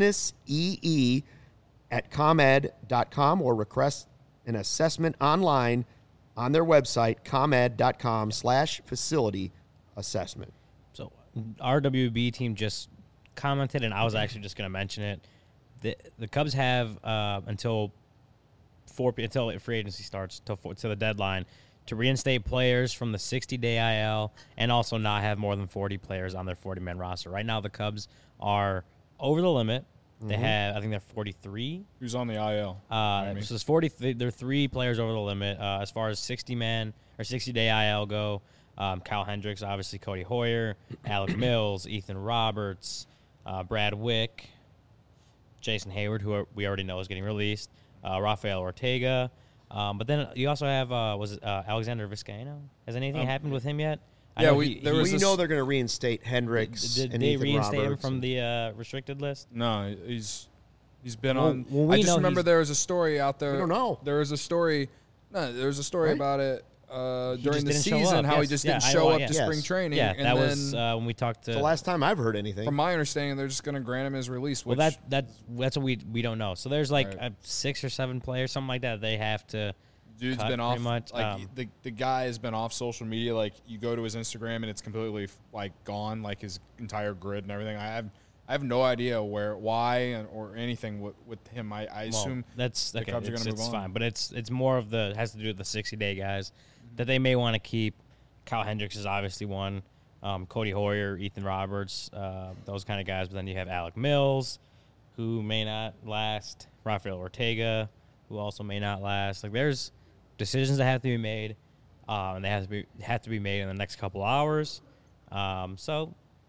businessee@comed.com or request an assessment online on their website, comed.com/facility assessment. So our WB team just commented, and I was actually just going to mention it. The Cubs have until free agency starts, to the deadline, to reinstate players from the 60-day IL and also not have more than 40 players on their 40-man roster. Right now, the Cubs are over the limit. They have, I think they're 43. Who's on the IL? So it's 40. They're 3 players over the limit. As far as 60-man or 60-day IL go, Kyle Hendricks, obviously Cody Hoyer, Alec Mills, Ethan Roberts, Brad Wick, Jason Hayward, who we already know is getting released, Rafael Ortega. But then you also have, Alexander Vizcaino? Has anything happened with him yet? Yeah, We know they're going to reinstate Hendricks Did and they Ethan reinstate him Roberts. from the restricted list? No, he's been on. well, we I just know remember he's- there was a story out there. We don't know. There was a story. No, there was a story Right? about it during the didn't show season. up, How he yes. just Yeah, didn't I show know, up yeah. to Yes. spring training. Yeah, and that then, was when we talked to. It's the last time I've heard anything. from my understanding, they're just going to grant him his release. Well, Which, that's what we don't know. So there's like Right. 6 or 7 players, something like that. They have to. dude's cut been off. pretty much. Like the guy has been off social media. Like you go to his Instagram and it's completely like gone, like his entire grid and everything. I have no idea why, or anything with him. I assume that's the okay. Cubs are It's, gonna move it's on. fine, but it's more of it has to do with the 60-day guys that they may want to keep. Kyle Hendricks is obviously one. Cody Hoyer, Ethan Roberts, those kind of guys. But then you have Alec Mills, who may not last. Rafael Ortega, who also may not last. Like there's decisions that have to be made, and they have to be made in the next couple hours. So,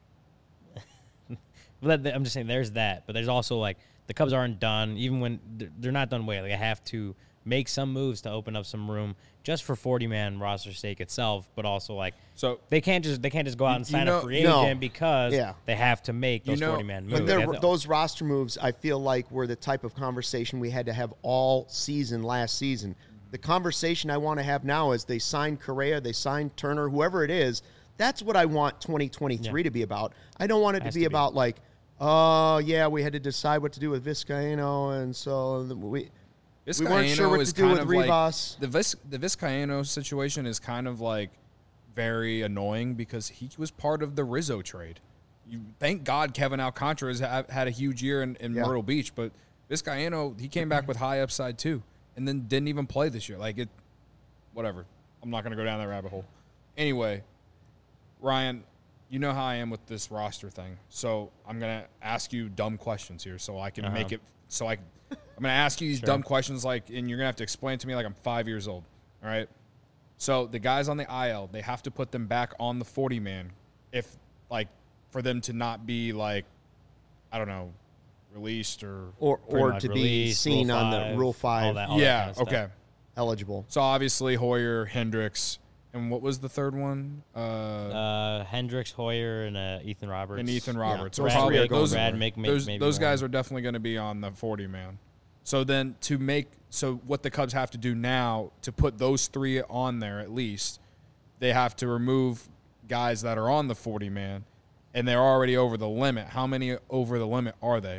I'm just saying there's that, but there's also like the Cubs aren't done. Even when they're not done waiting, they have to make some moves to open up some room just for 40-man roster sake itself, but also like so. they can't just go out and sign know- a free No. agent because Yeah. they have to make those 40-man moves. But They have to- those roster moves, I feel like, were the type of conversation we had to have all season last season. The conversation I want to have now is they signed Correa, they signed Turner, whoever it is. That's what I want 2023 to be about. I don't want it to be about like, oh, yeah, we had to decide what to do with Vizcaino, and so we weren't sure what to do with Rivas. Like, the Vizcaino situation is kind of like very annoying because he was part of the Rizzo trade. Thank God Kevin Alcantara has had a huge year in Myrtle Beach, but Vizcaino, he came back with high upside too, and then didn't even play this year. Like whatever. I'm not going to go down that rabbit hole. Anyway, Ryan, you know how I am with this roster thing. So I'm going to ask you dumb questions here so I can make it – I'm going to ask you these dumb questions and you're going to have to explain to me like I'm 5 years old, all right? So the guys on the IL, they have to put them back on the 40-man if for them to not be I don't know, released or to be seen on the Rule 5 all that kind of okay. eligible. So obviously Hoyer, Hendricks, and what was the third one? Hendricks, Hoyer, and Ethan Roberts. So Brad, those maybe guys are definitely going to be on the 40-man. So then what the Cubs have to do now to put those 3 on there at least, they have to remove guys that are on the 40-man, and they're already over the limit. How many over the limit are they?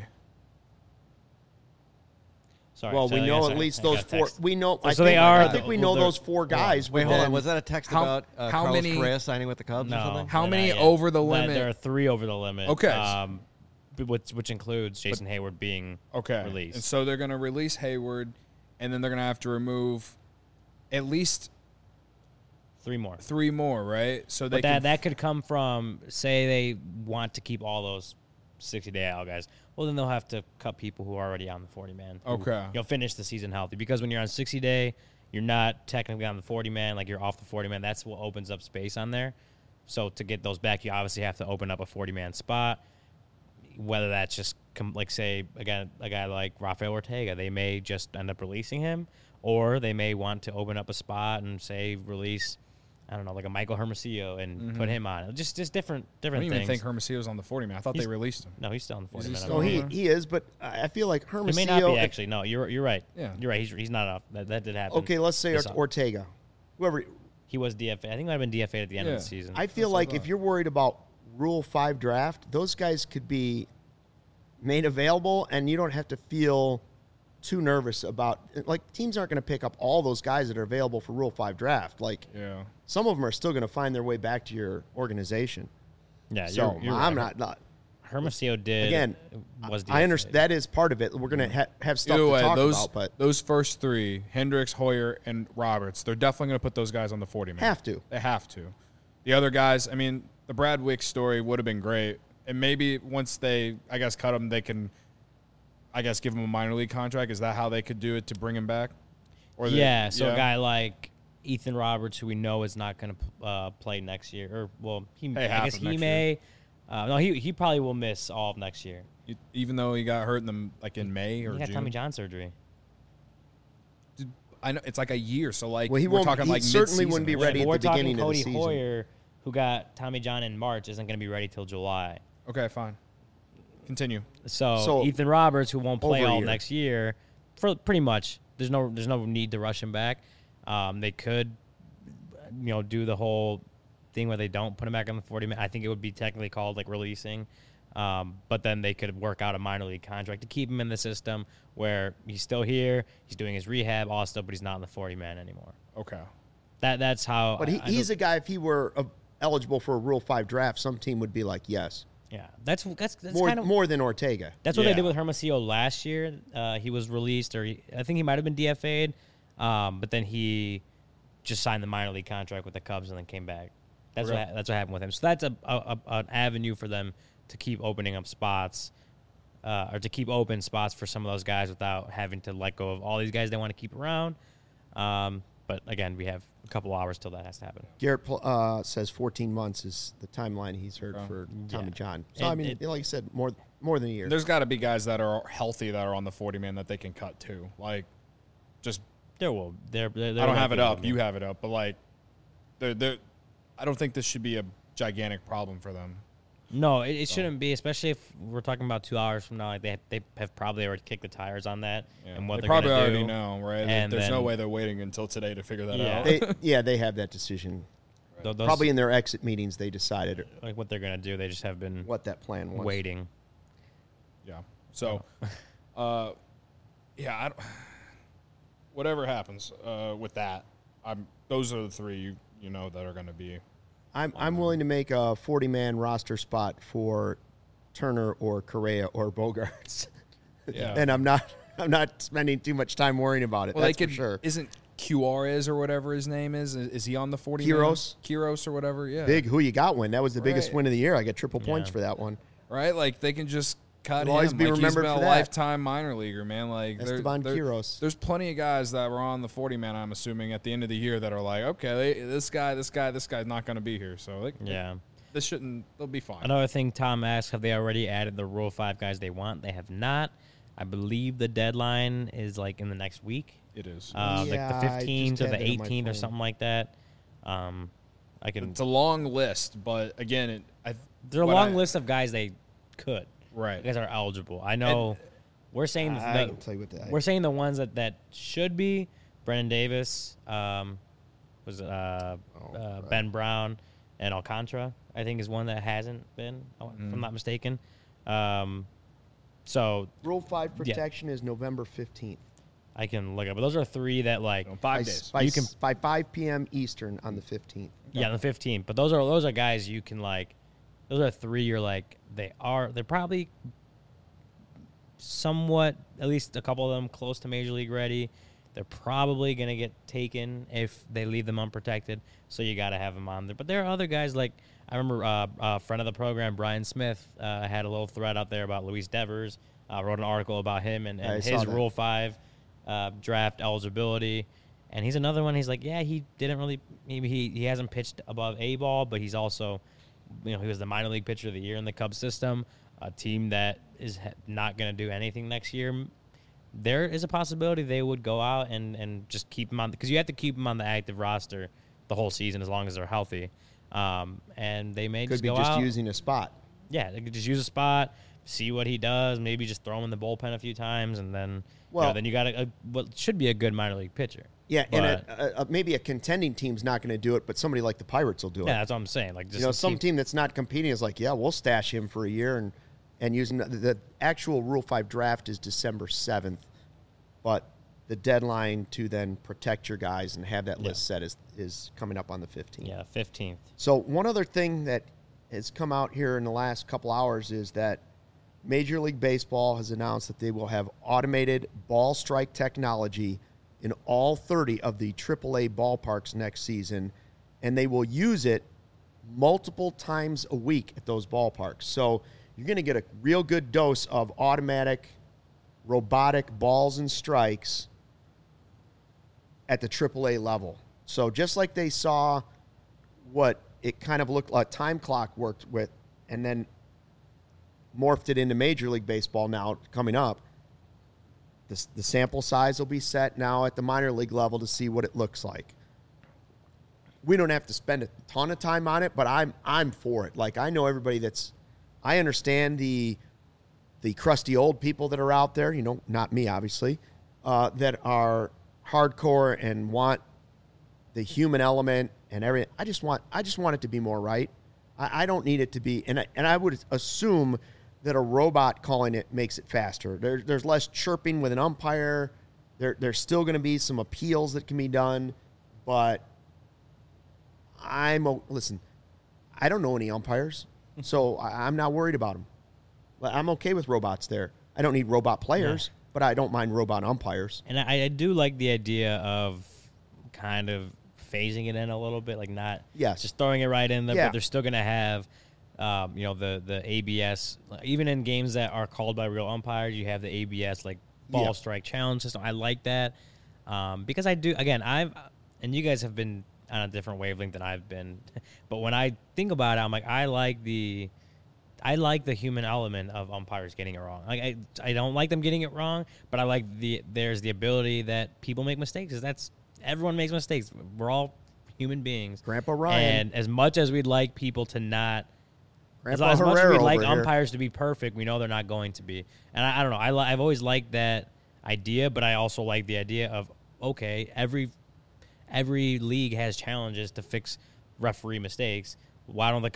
Sorry, well, we know at least those 4. We know. I think we know those 4 guys. Wait, hold on. Was that a text about Carlos Correa signing with the Cubs or something? How many over the limit? There are 3 over the limit. Okay. Which includes Jason Hayward being released. And so they're going to release Hayward, and then they're going to have to remove at least 3 more. 3 more, right? So they that could come from, say they want to keep all those 60-day IL guys. Well, then they'll have to cut people who are already on the 40-man. Okay. You'll finish the season healthy. Because when you're on 60-day, you're not technically on the 40-man. You're off the 40-man. That's what opens up space on there. So to get those back, you obviously have to open up a 40-man spot. Whether that's just, say, again, a guy like Rafael Ortega, they may just end up releasing him. Or they may want to open up a spot and, say, release, I don't know, like a Michael Hermosillo and put him on. Just different I don't things. even think Hermosillo's on the 40-man. I thought they released him. No, he's still on the 40-man. No, he is, but I feel like Hermosillo. He may not be, actually. No, you're right. Yeah. You're right. He's not up. That did happen. Okay, let's say Ortega. Whoever. He was DFA. I think he might have been DFA at the end of the season. I feel like if you're worried about Rule 5 draft, those guys could be made available, and you don't have to feel too nervous about teams aren't going to pick up all those guys that are available for Rule 5 draft. Some of them are still going to find their way back to your organization. Yeah, so you're I'm right. not. Hermosillo did. Again, was DFA. I understand that is part of it. We're going to have stuff to talk about, but those first 3, Hendricks, Hoyer, and Roberts, they're definitely going to put those guys on the 40-man. Have to. They have to. The other guys, I mean, the Brad Wicks story would have been great, and maybe once they, cut him, they can, give him a minor league contract. Is that how they could do it to bring him back? Or a guy like Ethan Roberts, who we know is not going to play next year, he may. No, he probably will miss all of next year. Even though he got hurt in May or June. He got Tommy John surgery. I know it's a year, so we're talking he certainly mid-season. wouldn't be ready at the beginning of the season. Cody Hoyer, who got Tommy John in March, isn't going to be ready till July. Okay, fine. Continue. So Ethan Roberts, who won't play all next year, for pretty much, there's no need to rush him back. They could, do the whole thing where they don't put him back on the 40-man. I think it would be technically called releasing. But then they could work out a minor league contract to keep him in the system where he's still here, he's doing his rehab, all stuff, but he's not in the 40-man anymore. Okay. That's how. But he's a guy. If he were eligible for a Rule 5 draft, some team would be like, yes. Yeah, that's more than Ortega. That's what they did with Hermosillo last year. He was released, I think he might have been DFA'd, but then he just signed the minor league contract with the Cubs and then came back. That's what happened with him. So that's an avenue for them to keep opening up spots, or to keep open spots for some of those guys without having to let go of all these guys they want to keep around. But again, we have a couple hours till that has to happen. Garrett says 14 months is the timeline he's heard for Tommy John. So, like you said, more than a year. There's got to be guys that are healthy that are on the 40-man that they can cut too. There will. I don't have it up. You have it up. But, I don't think this should be a gigantic problem for them. No, it shouldn't be, especially if we're talking about 2 hours from now. They have probably already kicked the tires on that and what they they're going to do. probably already know, right? And there's no way they're waiting until today to figure that out. They have that decision. Right. Probably in their exit meetings, they decided what they're going to do. They just have been what that plan was. Waiting. Yeah. So, whatever happens with that, those are the 3 you know that are going to be. I'm willing to make a 40-man roster spot for Turner or Correa or Bogarts. Yeah. And I'm not spending too much time worrying about it. That's for sure. Cuarez or whatever his name is. Is he on the 40? Quiros or whatever. Yeah. Big who you got win. That was the biggest Right. win of the year. I got triple points Yeah. for that one. Right? Like they can just cut He'll always him. be Like he's remembered been for a that. lifetime minor leaguer, man. Like Esteban Quiros. there's plenty of guys that were on the 40 man. I'm assuming at the end of the year that are like, okay, this guy's not going to be here. So like, Yeah. this shouldn't. They'll be fine. Another thing Tom asked, have they already added the Rule 5 guys they want? They have not. I believe the deadline is like in the next week. It is. Like Yeah, the I 15th just or the had it on my 18th or phone. something like that. I can. It's a long list, but again, There's a long list of guys they could. Right. Guys are eligible. I know. We're saying I can tell you what that. we're saying the ones that should be Brennan Davis, was Ben Brown, and Alcantara. I think is one that hasn't been, if I'm not mistaken. So Rule 5 protection is November 15th. I can look up, but those are three that like 5 days. By, You can- by 5 p.m. Eastern on the 15th. yeah, the 15th. But those are guys you can like. Those are three. You're like they're probably somewhat, at least a couple of them, close to Major League ready. They're probably going to get taken if they leave them unprotected, so you got to have them on there. But there are other guys like, I remember a friend of the program, Brian Smith, had a little thread out there about Luis Devers, wrote an article about him and I saw his that. Rule 5 draft eligibility. And he's another one. He's like, yeah, he didn't really, maybe he hasn't pitched above A ball, but he's also, he was the minor league pitcher of the year in the Cubs system, a team that is not going to do anything next year. There is a possibility they would go out and just keep him on, because you have to keep him on the active roster the whole season as long as they're healthy. And they may Could just be go just out. using a spot. Yeah, they could just use a spot, see what he does, maybe just throw him in the bullpen a few times, and then then you got what should be a good minor league pitcher. Yeah, But- and maybe a contending team's not going to do it, but somebody like the Pirates will do it. Yeah, that's what I'm saying. Like, just Some team that's not competing is like, yeah, we'll stash him for a year and use him. The actual Rule 5 draft is December 7th, but the deadline to then protect your guys and have that list set is coming up on the 15th. Yeah, 15th. So one other thing that has come out here in the last couple hours is that Major League Baseball has announced that they will have automated ball strike technology in all 30 of the AAA ballparks next season, and they will use it multiple times a week at those ballparks. So you're going to get a real good dose of automatic, robotic balls and strikes at the AAA level. So just like they saw what it kind of looked like time clock worked with and then morphed it into Major League Baseball now coming up, the sample size will be set now at the minor league level to see what it looks like. We don't have to spend a ton of time on it, but I'm for it. Like, I know everybody I understand the crusty old people that are out there, not me, obviously, that are hardcore and want the human element and everything. I just want it to be more right. I don't need it to be, and I would assume that a robot calling it makes it faster. There's less chirping with an umpire. There's still going to be some appeals that can be done, but listen, I don't know any umpires, so I'm not worried about them. I'm okay with robots there. I don't need robot players, but I don't mind robot umpires. And I do like the idea of kind of phasing it in a little bit, like not just throwing it right in there, but they're still going to have, the ABS. Even in games that are called by real umpires, you have the ABS, like ball strike challenge system. I like that because I do, again, and you guys have been on a different wavelength than I've been, but when I think about it, I'm like, I like the human element of umpires getting it wrong. Like I don't like them getting it wrong, but I like there's the ability that people make mistakes. Everyone makes mistakes. We're all human beings. Grandpa Ryan. And as much as we'd like people to not, as Grandpa much as Herrera we'd like over here. umpires to be perfect, we know they're not going to be. And I don't know. I've always liked that idea, but I also like the idea of, okay, every league has challenges to fix referee mistakes. Why doesn't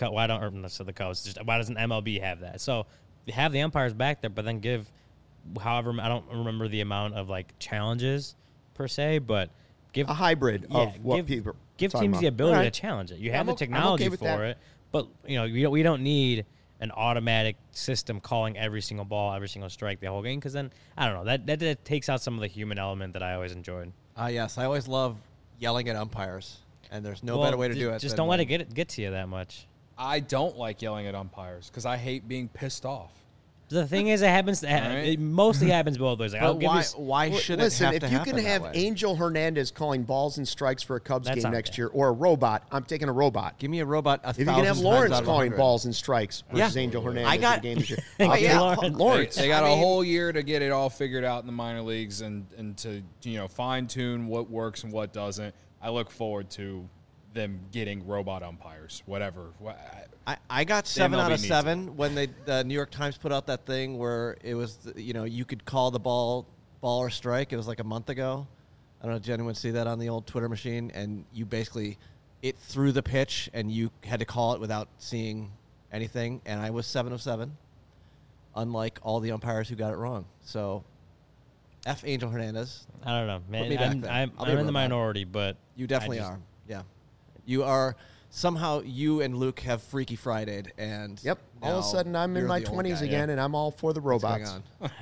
MLB have that? So have the umpires back there, but then give, however, I don't remember the amount of like challenges per se, but give A hybrid of what people give talking teams about. the ability All right. to challenge it. You Yeah, have I'm the okay technology with for that. it, but we don't need an automatic system calling every single ball, every single strike the whole game, because then, I don't know, that takes out some of the human element that I always enjoyed. Yes, I always love yelling at umpires, and there's no better way to do it. Just than don't let when- it get to you that much. I don't like yelling at umpires because I hate being pissed off. The thing is, it happens. Right. It mostly happens both ways. Like, I'll But give why, you, why should Listen, it have if to you happen can have that way? Angel Hernandez calling balls and strikes for a Cubs That's game not next bad. year, or a robot, I'm taking a robot. Give me a robot. If you can have Lawrence calling balls. balls and strikes versus Yeah. Angel Hernandez I got- in the game this year, Thank I'll you, take Lawrence. Lawrence. They got I a mean- whole year to get it all figured out in the minor leagues and to fine tune what works and what doesn't. I look forward to them getting robot umpires, whatever. I got The 7 out MLB of needs 7 when the New York Times put out that thing where it was, you could call the ball or strike. It was like a month ago. I don't know if Jen would see that on the old Twitter machine, and you basically, it threw the pitch, and you had to call it without seeing anything, and I was 7 of 7, unlike all the umpires who got it wrong. So, F. Angel Hernandez. I don't know, me man. back I'm, then. I'm, I'll be I'm a in the robot. minority, but You definitely I just- are. Yeah. You are, somehow you and Luke have Freaky Friday'd, and Yep. All of a now sudden, I'm in you're my the old 20s guy. again, and I'm all for the What's going robots. on?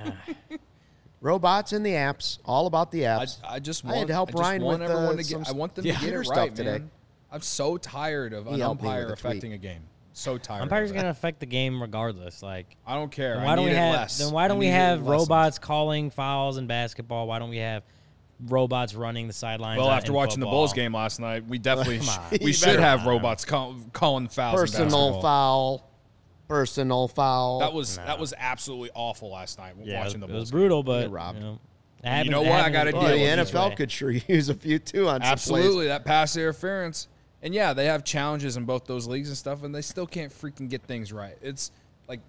Robots and the apps. All about the apps. I just I want, had to help I just Ryan want with, everyone to some get. I want them yeah, to get computer it stuff right, today. man. I'm so tired of an He helped me umpire with a tweet. affecting a game. So tired. umpires of are it. going to affect the game regardless. Like, I don't care. then I why don't need we it have? less. Then why I don't we need it have lessened. robots calling fouls in basketball? Why don't we have robots running the sidelines? Well, in after watching the football? Bulls game last night, we definitely Come on. we You should better- have robots calling fouls. in Personal basketball. foul. Personal foul. That was absolutely awful last night Yeah, watching the it Bulls. was brutal, but You're robbed. it happens- know it what? I happens gotta both Well, the deal with ways. NFL could sure use a few too on some Absolutely, plays. that pass interference. And yeah, they have challenges in both those leagues and stuff, and they still can't freaking get things right. It's like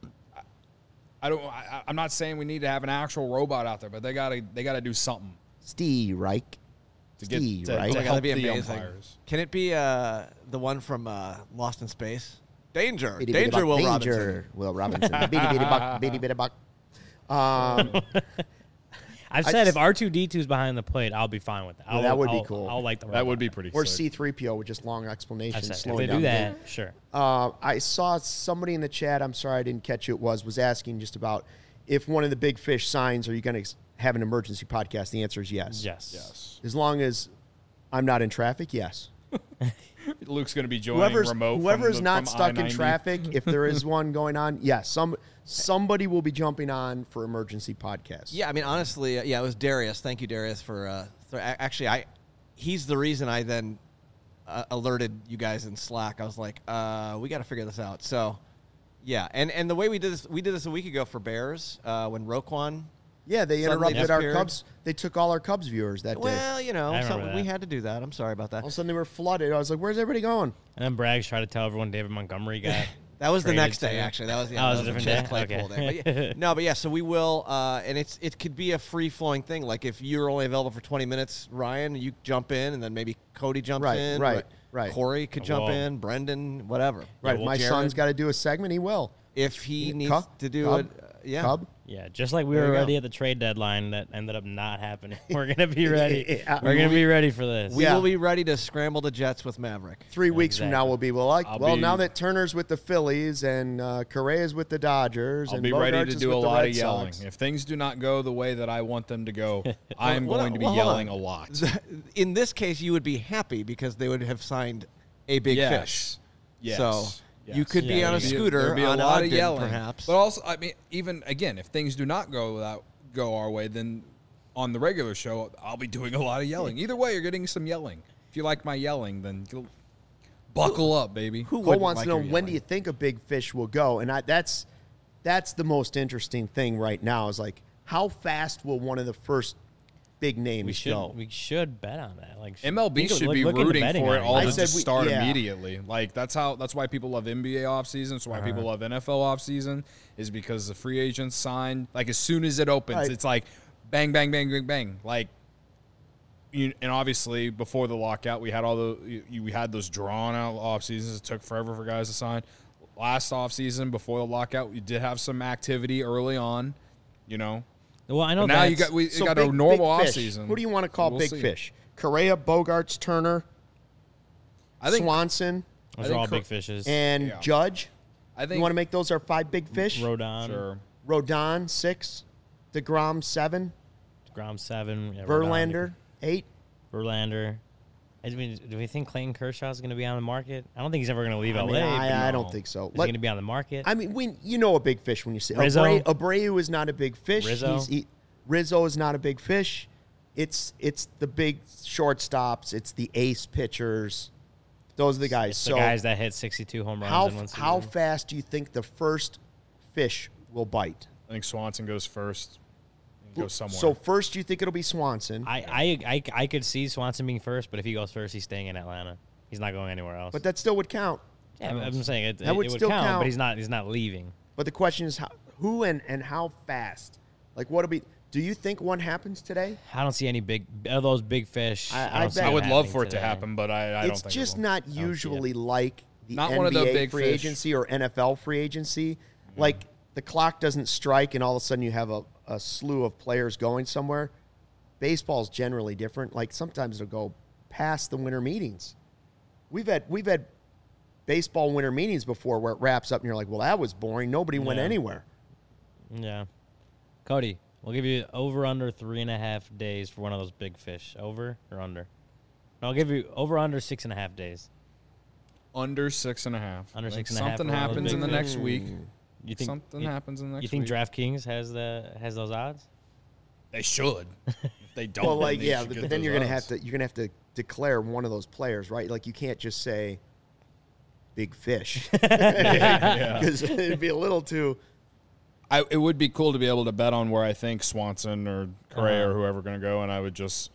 I'm not saying we need to have an actual robot out there, but they gotta do something Steve Reich. to get Steve, to, right? to Oh my That'd help be the amazing. umpires. Can it be the one from Lost in Space? Danger. Bitty bitty Danger, buck, Will danger. Robinson. Will Robinson. Bitty bitty buck. Bitty bitty buck. I've I said just- if R2D2 is behind the plate, I'll be fine with that. Yeah, that would be cool. I'll like the That would robot. be pretty. Or sick. C3PO with just long I've explanations. said, if slowing they down do the that, game. sure. I saw somebody in the chat. I'm sorry I didn't catch who it was asking just about if one of the big fish signs, are you going to have an emergency podcast? The answer is yes. Yes. As long as I'm not in traffic, yes. Luke's going to be joining remote. Whoever's from not from stuck in I-90. traffic, if there is one going on, yes, somebody will be jumping on for emergency podcasts. Yeah, I mean, honestly, it was Darius. Thank you, Darius, for actually, he's the reason I then alerted you guys in Slack. I was like, we got to figure this out. So, yeah, and the way we did this a week ago for Bears when Roquan. Yeah, they Suddenly interrupted our disappeared. Cubs. They took all our Cubs viewers that day. Well, I remember we that. had to do that. I'm sorry about that. All of a sudden they were flooded. I was like, where's everybody going? And then Braggs tried to tell everyone David Montgomery got. That was the traded next day, too. actually. That was Oh, it was a that different Chad day? Claypool Okay. day. But yeah, so we will, and it could be a free flowing thing. Like if you're only available for 20 minutes, Ryan, you jump in, and then maybe Cody jumps Right, in, right. Corey could jump Whoa. in, Brendan, whatever. Right, well, if my Jared, son's got to do a segment, he will. if he needs Cub? to do Cub? it, yeah. Cub? Yeah, just like we There were you go. ready at the trade deadline, that ended up not happening. We're gonna be ready. Yeah. We're gonna be ready for this. We Yeah. will be ready to scramble the Jets with Maverick. 3 weeks from now, Exactly. we'll be well. I'll Well, be- now that Turner's with the Phillies and Correa's with the Dodgers, I'll and be ready Bogaerts to is do with a the lot Red of yelling. Sox. If things do not go the way that I want them to go, I am Well, going to be well, hold yelling on. a lot. In this case, you would be happy because they would have signed a big Yes. fish. Yes. So Yes. you could be Yeah, on a there'd be- scooter There'd be a on lot of Ogden, yelling, perhaps. But also, I mean, even again, if things do not go our way, then on the regular show, I'll be doing a lot of yelling. Either way, you're getting some yelling. If you like my yelling, then buckle up, baby. Who Cole wouldn't wants like to know, your when do yelling? you think a big fish will go? And that's the most interesting thing right now is like, how fast will one of the first big names go? we should bet on that. Like MLB think of- should be look into rooting betting for on it all I to said just we- start yeah. immediately. Like that's why people love NBA offseason. That's why people love NFL offseason is because the free agents sign like as soon as it opens, Right. it's like bang, bang, bang, bang, bang. Like and obviously before the lockout, we had we had those drawn out off seasons. It took forever for guys to sign. Last off season before the lockout, we did have some activity early on. Well, I know But now that's- we So got big- a normal big fish. offseason. Who do you want to call We'll big see. fish? Correa, Bogarts, Turner, I think Swanson, those I are all think big fishes. and Yeah. Judge? I think You want to make those our 5 big fish? Rodon, Sure. Rodon 6, DeGrom 7, Grom 7, yeah, Verlander 8. Verlander. Do we think Clayton Kershaw is going to be on the market? I don't think he's ever going to leave I LA. mean, but I don't think so. Is he going to be on the market? I mean, when you know a big fish when you see Rizzo? Abreu is not a big fish. Rizzo? Rizzo is not a big fish. It's the big shortstops. It's the ace pitchers. Those are the guys. It's So the guys that hit 62 home runs in one season. how fast do you think the first fish will bite? I think Swanson goes first and goes somewhere. So first, you think it'll be Swanson, I could see Swanson being first, but if he goes first, he's staying in Atlanta. He's not going anywhere else. but that still would count. yeah, I'm saying it That would would still count, count. but he's not leaving. But the question is who and how fast? Like what'll be? Do you think one happens today? I don't see any big of those big fish. I don't see bet- I it would love happening for it to today. happen, but I don't It's think just it will. not see it. usually like the Not NBA one of the big free fish. agency or NFL free agency. Like the clock doesn't strike and all of a sudden you have a slew of players going somewhere. Baseball's generally different. Like sometimes it'll go past the winter meetings. We've had baseball winter meetings before where it wraps up and you're like, well, that was boring. Nobody went Yeah. anywhere. Yeah. Cody, we'll give you over under 3.5 days for one of those big fish. Over or under? No, I'll give you over under 6.5 days. Under 6.5. Under I think 6.5 Something for one of those happens in big the fish. next week. You think Something you, happens in the next You think week. DraftKings has those odds? They should. If they don't, Well, then like they yeah, should but get then those you're gonna odds. have to declare one of those players, right? Like you can't just say big fish Yeah. because it'd be a little too. It would be cool to be able to bet on where I think Swanson or Correa Uh-huh. or whoever going to go, and I would just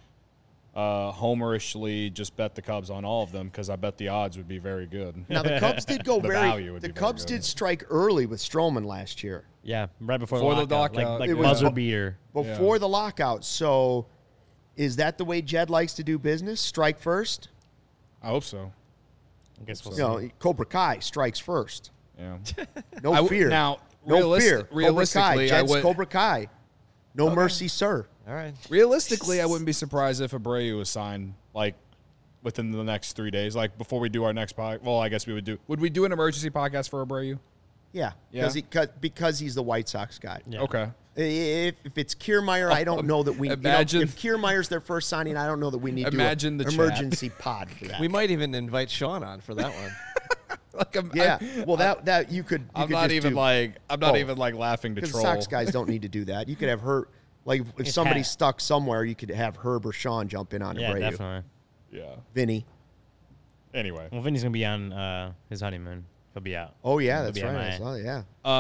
homerishly just bet the Cubs on all of them because I bet the odds would be very good. Now the Cubs did go The very. value would The be very Cubs good. did strike early with Stroman last year Yeah, right before Before the lockout. lockout, Like it was- buzzer beater. before the lockout. So, is that the way Jed likes to do business? Strike first. I hope so. I guess we'll You know, Cobra Kai strikes first. Yeah. No I w- fear. now, no fear. Cobra Kai. realistically, I Jed's would- Cobra Kai. No mercy, sir. All right. Realistically, I wouldn't be surprised if Abreu was signed like within the next 3 days, like before we do our next podcast. Well, I guess we would do. Would we do an emergency podcast for Abreu? Yeah, Yeah. because he's the White Sox guy. Yeah. Okay. If it's Kiermaier, I don't know that we. Imagine- if Kiermaier's their first signing, I don't know that we need Imagine to the do chat. an emergency pod for that. We might even invite Sean on for that one. yeah. Well, that you could. I'm could not just even do like I'm not both. even like laughing to Because troll. Sox guys don't need to do that. You could have Herb. Like if It's somebody's Pat. stuck somewhere, you could have Herb or Sean jump in on Yeah, Abreu. definitely. Yeah. Vinny. Anyway, Well, Vinny's gonna be on his honeymoon. He'll be out. Oh yeah, He'll that's be right. MIA. I saw that, yeah.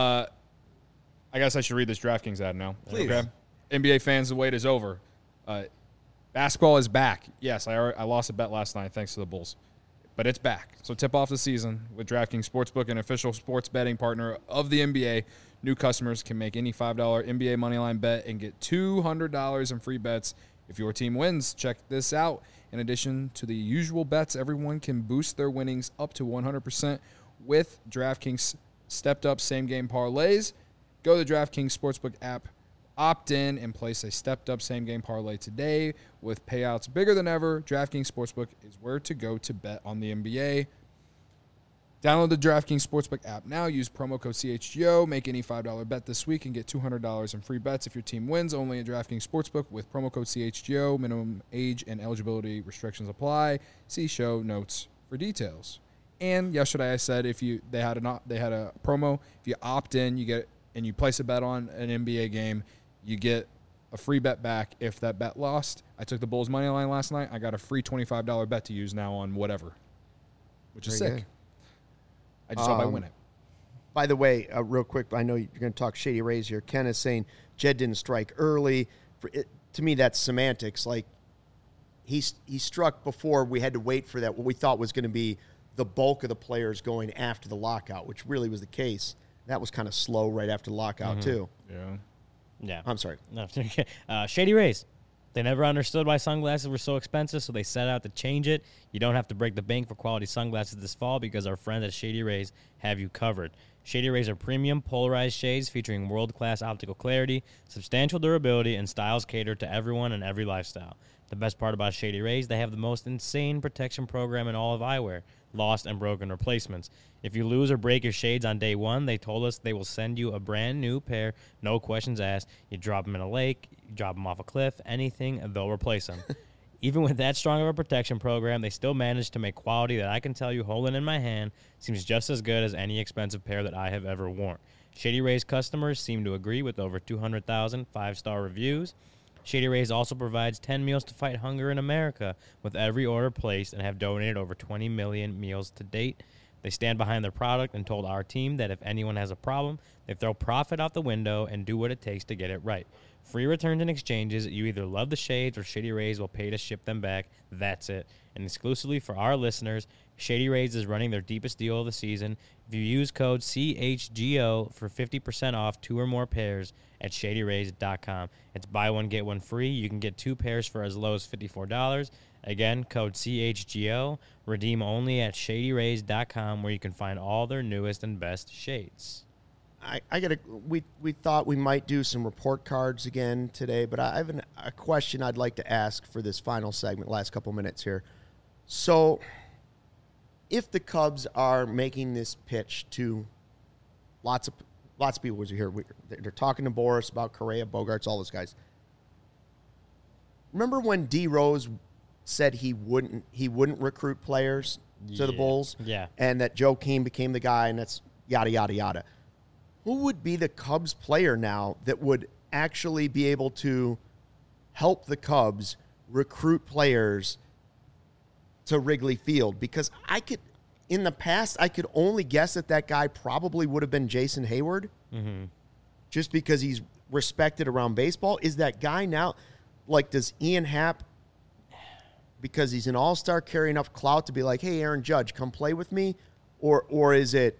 I guess I should read this DraftKings ad now. Please. Okay. NBA fans, the wait is over. Basketball is back. Yes, I lost a bet last night thanks to the Bulls, but it's back. So tip off the season with DraftKings Sportsbook, an official sports betting partner of the NBA. New customers can make any $5 NBA moneyline bet and get $200 in free bets if your team wins. Check this out. In addition to the usual bets, everyone can boost their winnings up to 100% with DraftKings stepped-up same-game parlays. Go to the DraftKings Sportsbook app, opt in, and place a stepped-up same-game parlay today with payouts bigger than ever. DraftKings Sportsbook is where to go to bet on the NBA. Download the DraftKings Sportsbook app now. Use promo code CHGO. Make any $5 bet this week and get $200 in free bets if your team wins. Only at DraftKings Sportsbook with promo code CHGO. Minimum age and eligibility restrictions apply. See show notes for details. And yesterday I said they had a promo. If you opt in, you get and you place a bet on an NBA game, you get a free bet back if that bet lost. I took the Bulls money line last night. I got a free $25 bet to use now on whatever, which is Very sick. good. I just hope I win it. By the way, real quick, I know you're going to talk Shady Rays here. Ken is saying Jed didn't strike early. To me, that's semantics. Like he struck before we had to wait for that. What we thought was going to be the bulk of the players going after the lockout, which really was the case. That was kind of slow right after the lockout too. Yeah. Yeah. I'm sorry. No, Shady Rays. They never understood why sunglasses were so expensive, so they set out to change it. You don't have to break the bank for quality sunglasses this fall because our friends at Shady Rays have you covered. Shady Rays are premium polarized shades featuring world-class optical clarity, substantial durability, and styles catered to everyone and every lifestyle. The best part about Shady Rays, they have the most insane protection program in all of eyewear, lost and broken replacements. If you lose or break your shades on day one, they told us they will send you a brand new pair, no questions asked. You drop them in a lake, you drop them off a cliff, anything, they'll replace them. Even with that strong of a protection program, they still manage to make quality that I can tell you holding in my hand seems just as good as any expensive pair that I have ever worn. Shady Rays customers seem to agree with over 200,000 5-star reviews. Shady Rays also provides 10 meals to fight hunger in America with every order placed and have donated over 20 million meals to date. They stand behind their product and told our team that if anyone has a problem, they throw profit out the window and do what it takes to get it right. Free returns and exchanges. You either love the shades or Shady Rays will pay to ship them back. That's it. And exclusively for our listeners, Shady Rays is running their deepest deal of the season. If you use code CHGO for 50% off 2 or more pairs at ShadyRays.com. It's buy one, get one free. You can get 2 pairs for as low as $54. Again, code CHGO. Redeem only at ShadyRays.com, where you can find all their newest and best shades. We thought we might do some report cards again today, but I have a question I'd like to ask for this final segment, last couple minutes here. So, if the Cubs are making this pitch to lots of people who are here, they're talking to Boris about Correa, Bogarts, all those guys. Remember when D Rose said he wouldn't recruit players to the Bulls? Yeah. And that Joe Keane became the guy, and that's yada, yada, yada. Who would be the Cubs player now that would actually be able to help the Cubs recruit players to Wrigley Field? Because in the past, I could only guess that guy probably would have been Jason Hayward, just because he's respected around baseball. Is that guy now, like, does Ian Happ, because he's an all-star, carry enough clout to be like, hey, Aaron Judge, come play with me? Or is it,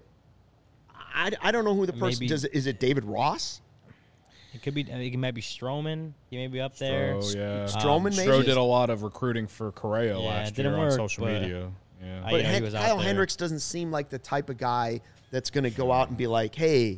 I don't know who the person does. Is it David Ross? It could be. It might be Stroman. He may be up there. Oh yeah, Stroman maybe. Stroh did a lot of recruiting for Correa last year on social but media. Yeah, I But know he was out Kyle there. Hendricks doesn't seem like the type of guy that's going to go out and be like, hey,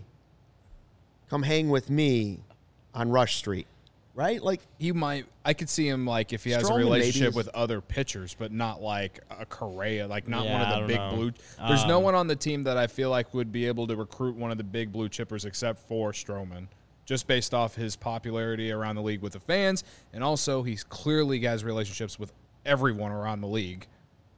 come hang with me on Rush Street, right? Like, he might. I could see him like if he has a Stroman maybe relationship is- with other pitchers, but not like a Correa, like not Yeah, one I of the don't big know. blue. There's no one on the team that I feel like would be able to recruit one of the big blue chippers except for Stroman, just based off his popularity around the league with the fans, and also he's clearly has relationships with everyone around the league.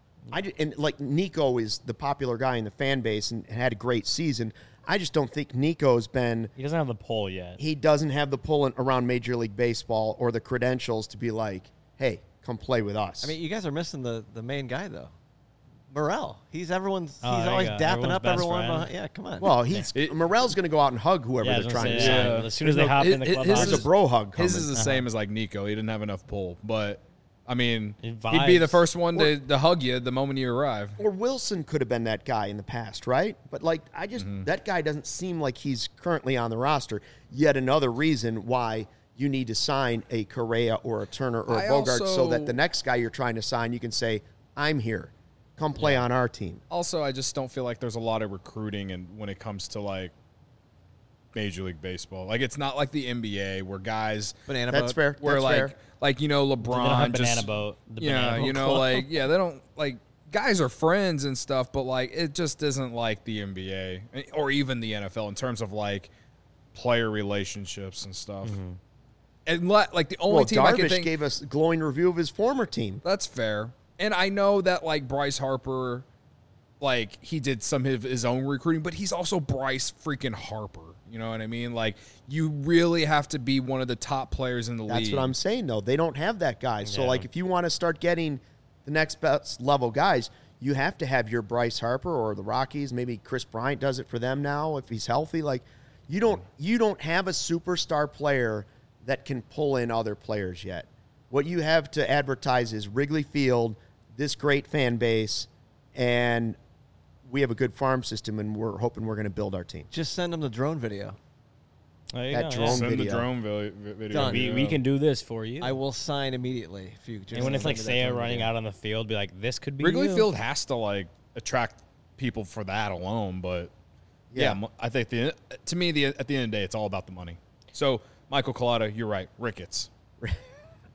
like Nico is the popular guy in the fan base and had a great season. I just don't think Nico's been. He doesn't have the pull yet. He doesn't have the pull around Major League Baseball or the credentials to be like, hey, come play with us. I mean, you guys are missing the main guy though, Morel. He's there always you dapping go. up Everyone's everyone. best friend. Yeah, come on. well, Morel's going to go out and hug whoever Yeah, I they're was trying gonna to say, sign. yeah. As soon as they hop in the His clubhouse, There's a bro hug coming. His is the same as like Nico. He didn't have enough pull, but I mean, It he'd be the vibes. first one to hug you the moment you arrive. Or Wilson could have been that guy in the past, right? But, like, that guy doesn't seem like he's currently on the roster. Yet another reason why you need to sign a Correa or a Turner or a Bogart so that the next guy you're trying to sign, you can say, I'm here. Come play on our team. Also, I just don't feel like there's a lot of recruiting and when it comes to like Major League Baseball. Like it's not like the NBA where guys Banana That's boat. fair. where That's fair. like you know They don't have LeBron banana just boat. The yeah, banana boat you know club. like yeah, they don't like guys are friends and stuff, but like it just isn't like the NBA or even the NFL in terms of like player relationships and stuff. And like the only Well, team I can Darvish think gave us a glowing review of his former team. that's fair. And I know that like Bryce Harper, like he did some of his own recruiting, but he's also Bryce freaking Harper. You know what I mean? Like you really have to be one of the top players in the league. That's what I'm saying, though. They don't have that guy. So, Yeah. like, if you want to start getting the next best level guys, you have to have your Bryce Harper or the Rockies. Maybe Chris Bryant does it for them now if he's healthy. Like, you don't have a superstar player that can pull in other players yet. What you have to advertise is Wrigley Field, this great fan base, and we have a good farm system, and we're hoping we're going to build our team. Just send them the drone video. There you that go, drone yeah. Send video. the drone video. Done. We can do this for you. I will sign immediately if you. Just and when it's send like me that Saya drone running video. out on the field, be like, this could be Wrigley you. Field has to like attract people for that alone, but yeah, I think to me at the end of the day, it's all about the money. So Michael Collada, you're right, Ricketts.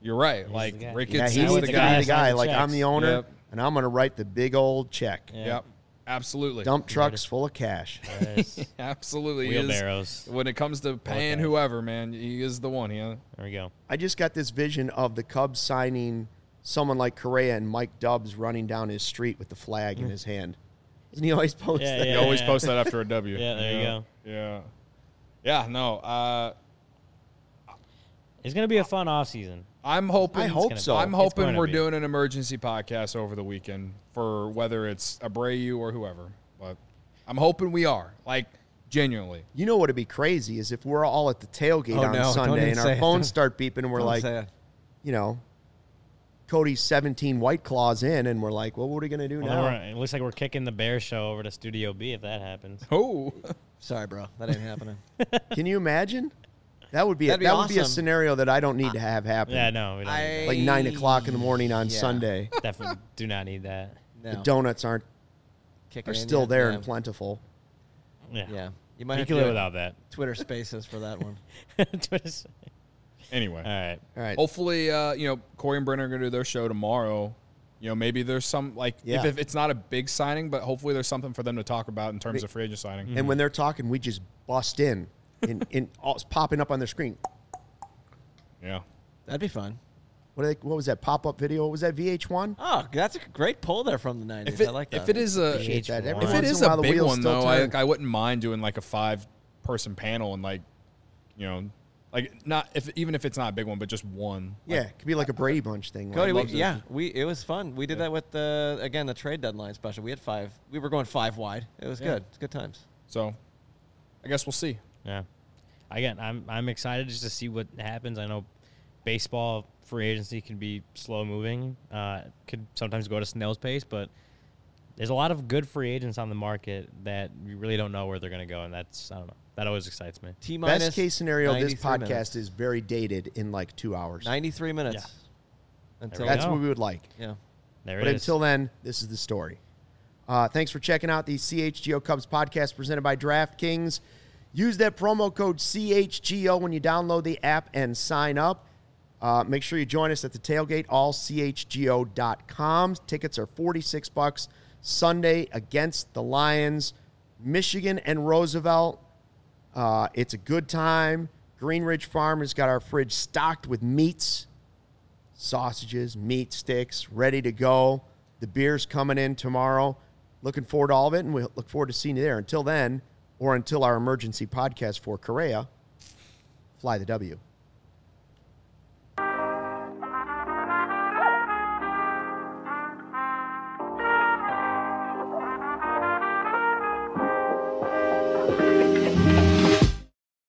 You're right. the Like guy. Ricketts Yeah, is he He's the needs to guy. be the guy. signing Like, I'm checks. the owner, Yep. and I'm going to write the big old check. Yeah. Yep. Absolutely. Dump trucks full of cash. Yes. Absolutely. He is- Wheelbarrows. when it comes to paying Okay. whoever, man, he is the one. Yeah. There we go. I just got this vision of the Cubs signing someone like Correa and Mike Dubs running down his street with the flag in his hand. Doesn't he always post Yeah, that? You always post that after a W. Yeah, there you go. Yeah. Yeah, no. It's going to be a fun offseason. I'm hoping. I hope so. I'm It's hoping gonna we're be. doing an emergency podcast over the weekend for whether it's Abreu or whoever. But I'm hoping we are. Like, genuinely. You know what would be crazy is if we're all at the tailgate Oh, on no, don't Sunday even and say our it. phones start beeping and we're Don't like, say it. you know, Cody's 17 White Claws in, and we're like, well, what are we going to do Well, now? it looks like we're kicking the Bears show over to Studio B if that happens. Oh. Sorry, bro. That ain't happening. Can you imagine? That would be That'd be that would be a awesome. scenario that I don't need to have happen. Yeah, no. We don't need Like 9 o'clock in the morning on Yeah. Sunday. that. Definitely do not need that. No. The donuts are Kicking in still yet? there Yeah. and plentiful. Yeah. Yeah. You might You have can to live do without that. Twitter Spaces for that one. Twitter's- Anyway. All right. All right. Hopefully, Corey and Brennan are going to do their show tomorrow. Maybe there's some, like, Yeah. if it's not a big signing, but hopefully there's something for them to talk about in terms of free agent signing. And when they're talking, we just bust in all, it's popping up on their screen. Yeah. That'd be fun. What was that pop-up video? What was that, VH1? Oh, that's a great pull there from the 90s. I like that. If it is a Appreciate that. Every If if once it in is a while, a the big wheels one still though, turn. I wouldn't mind doing like a 5-person panel and like, not even if it's not a big one, but just one. Yeah, it could be like a Brady Bunch thing. Cody, Like, it was fun. We did that with the trade deadline special. We had 5. We were going 5 wide. It was good. It's good times. So, I guess we'll see. Yeah. Again, I'm excited just to see what happens. I know baseball free agency can be slow moving. Could sometimes go to snail's pace, but there's a lot of good free agents on the market that you really don't know where they're going to go, and that's, I don't know. That always excites me. T-minus best case scenario, this 93 podcast minutes. is very dated in like 2 hours. 93 minutes. Yeah. Until There we That's go. what we would like. yeah. There But it is. until then, this is the story. Thanks for checking out the CHGO Cubs podcast presented by DraftKings. Use that promo code CHGO when you download the app and sign up. Make sure you join us at the tailgate, allchgo.com. Tickets are $46 Sunday against the Lions. Michigan and Roosevelt. It's a good time. Green Ridge Farm has got our fridge stocked with meats, sausages, meat sticks, ready to go. The beer's coming in tomorrow. Looking forward to all of it, and we look forward to seeing you there. Until then, or until our emergency podcast for Correa, fly the W.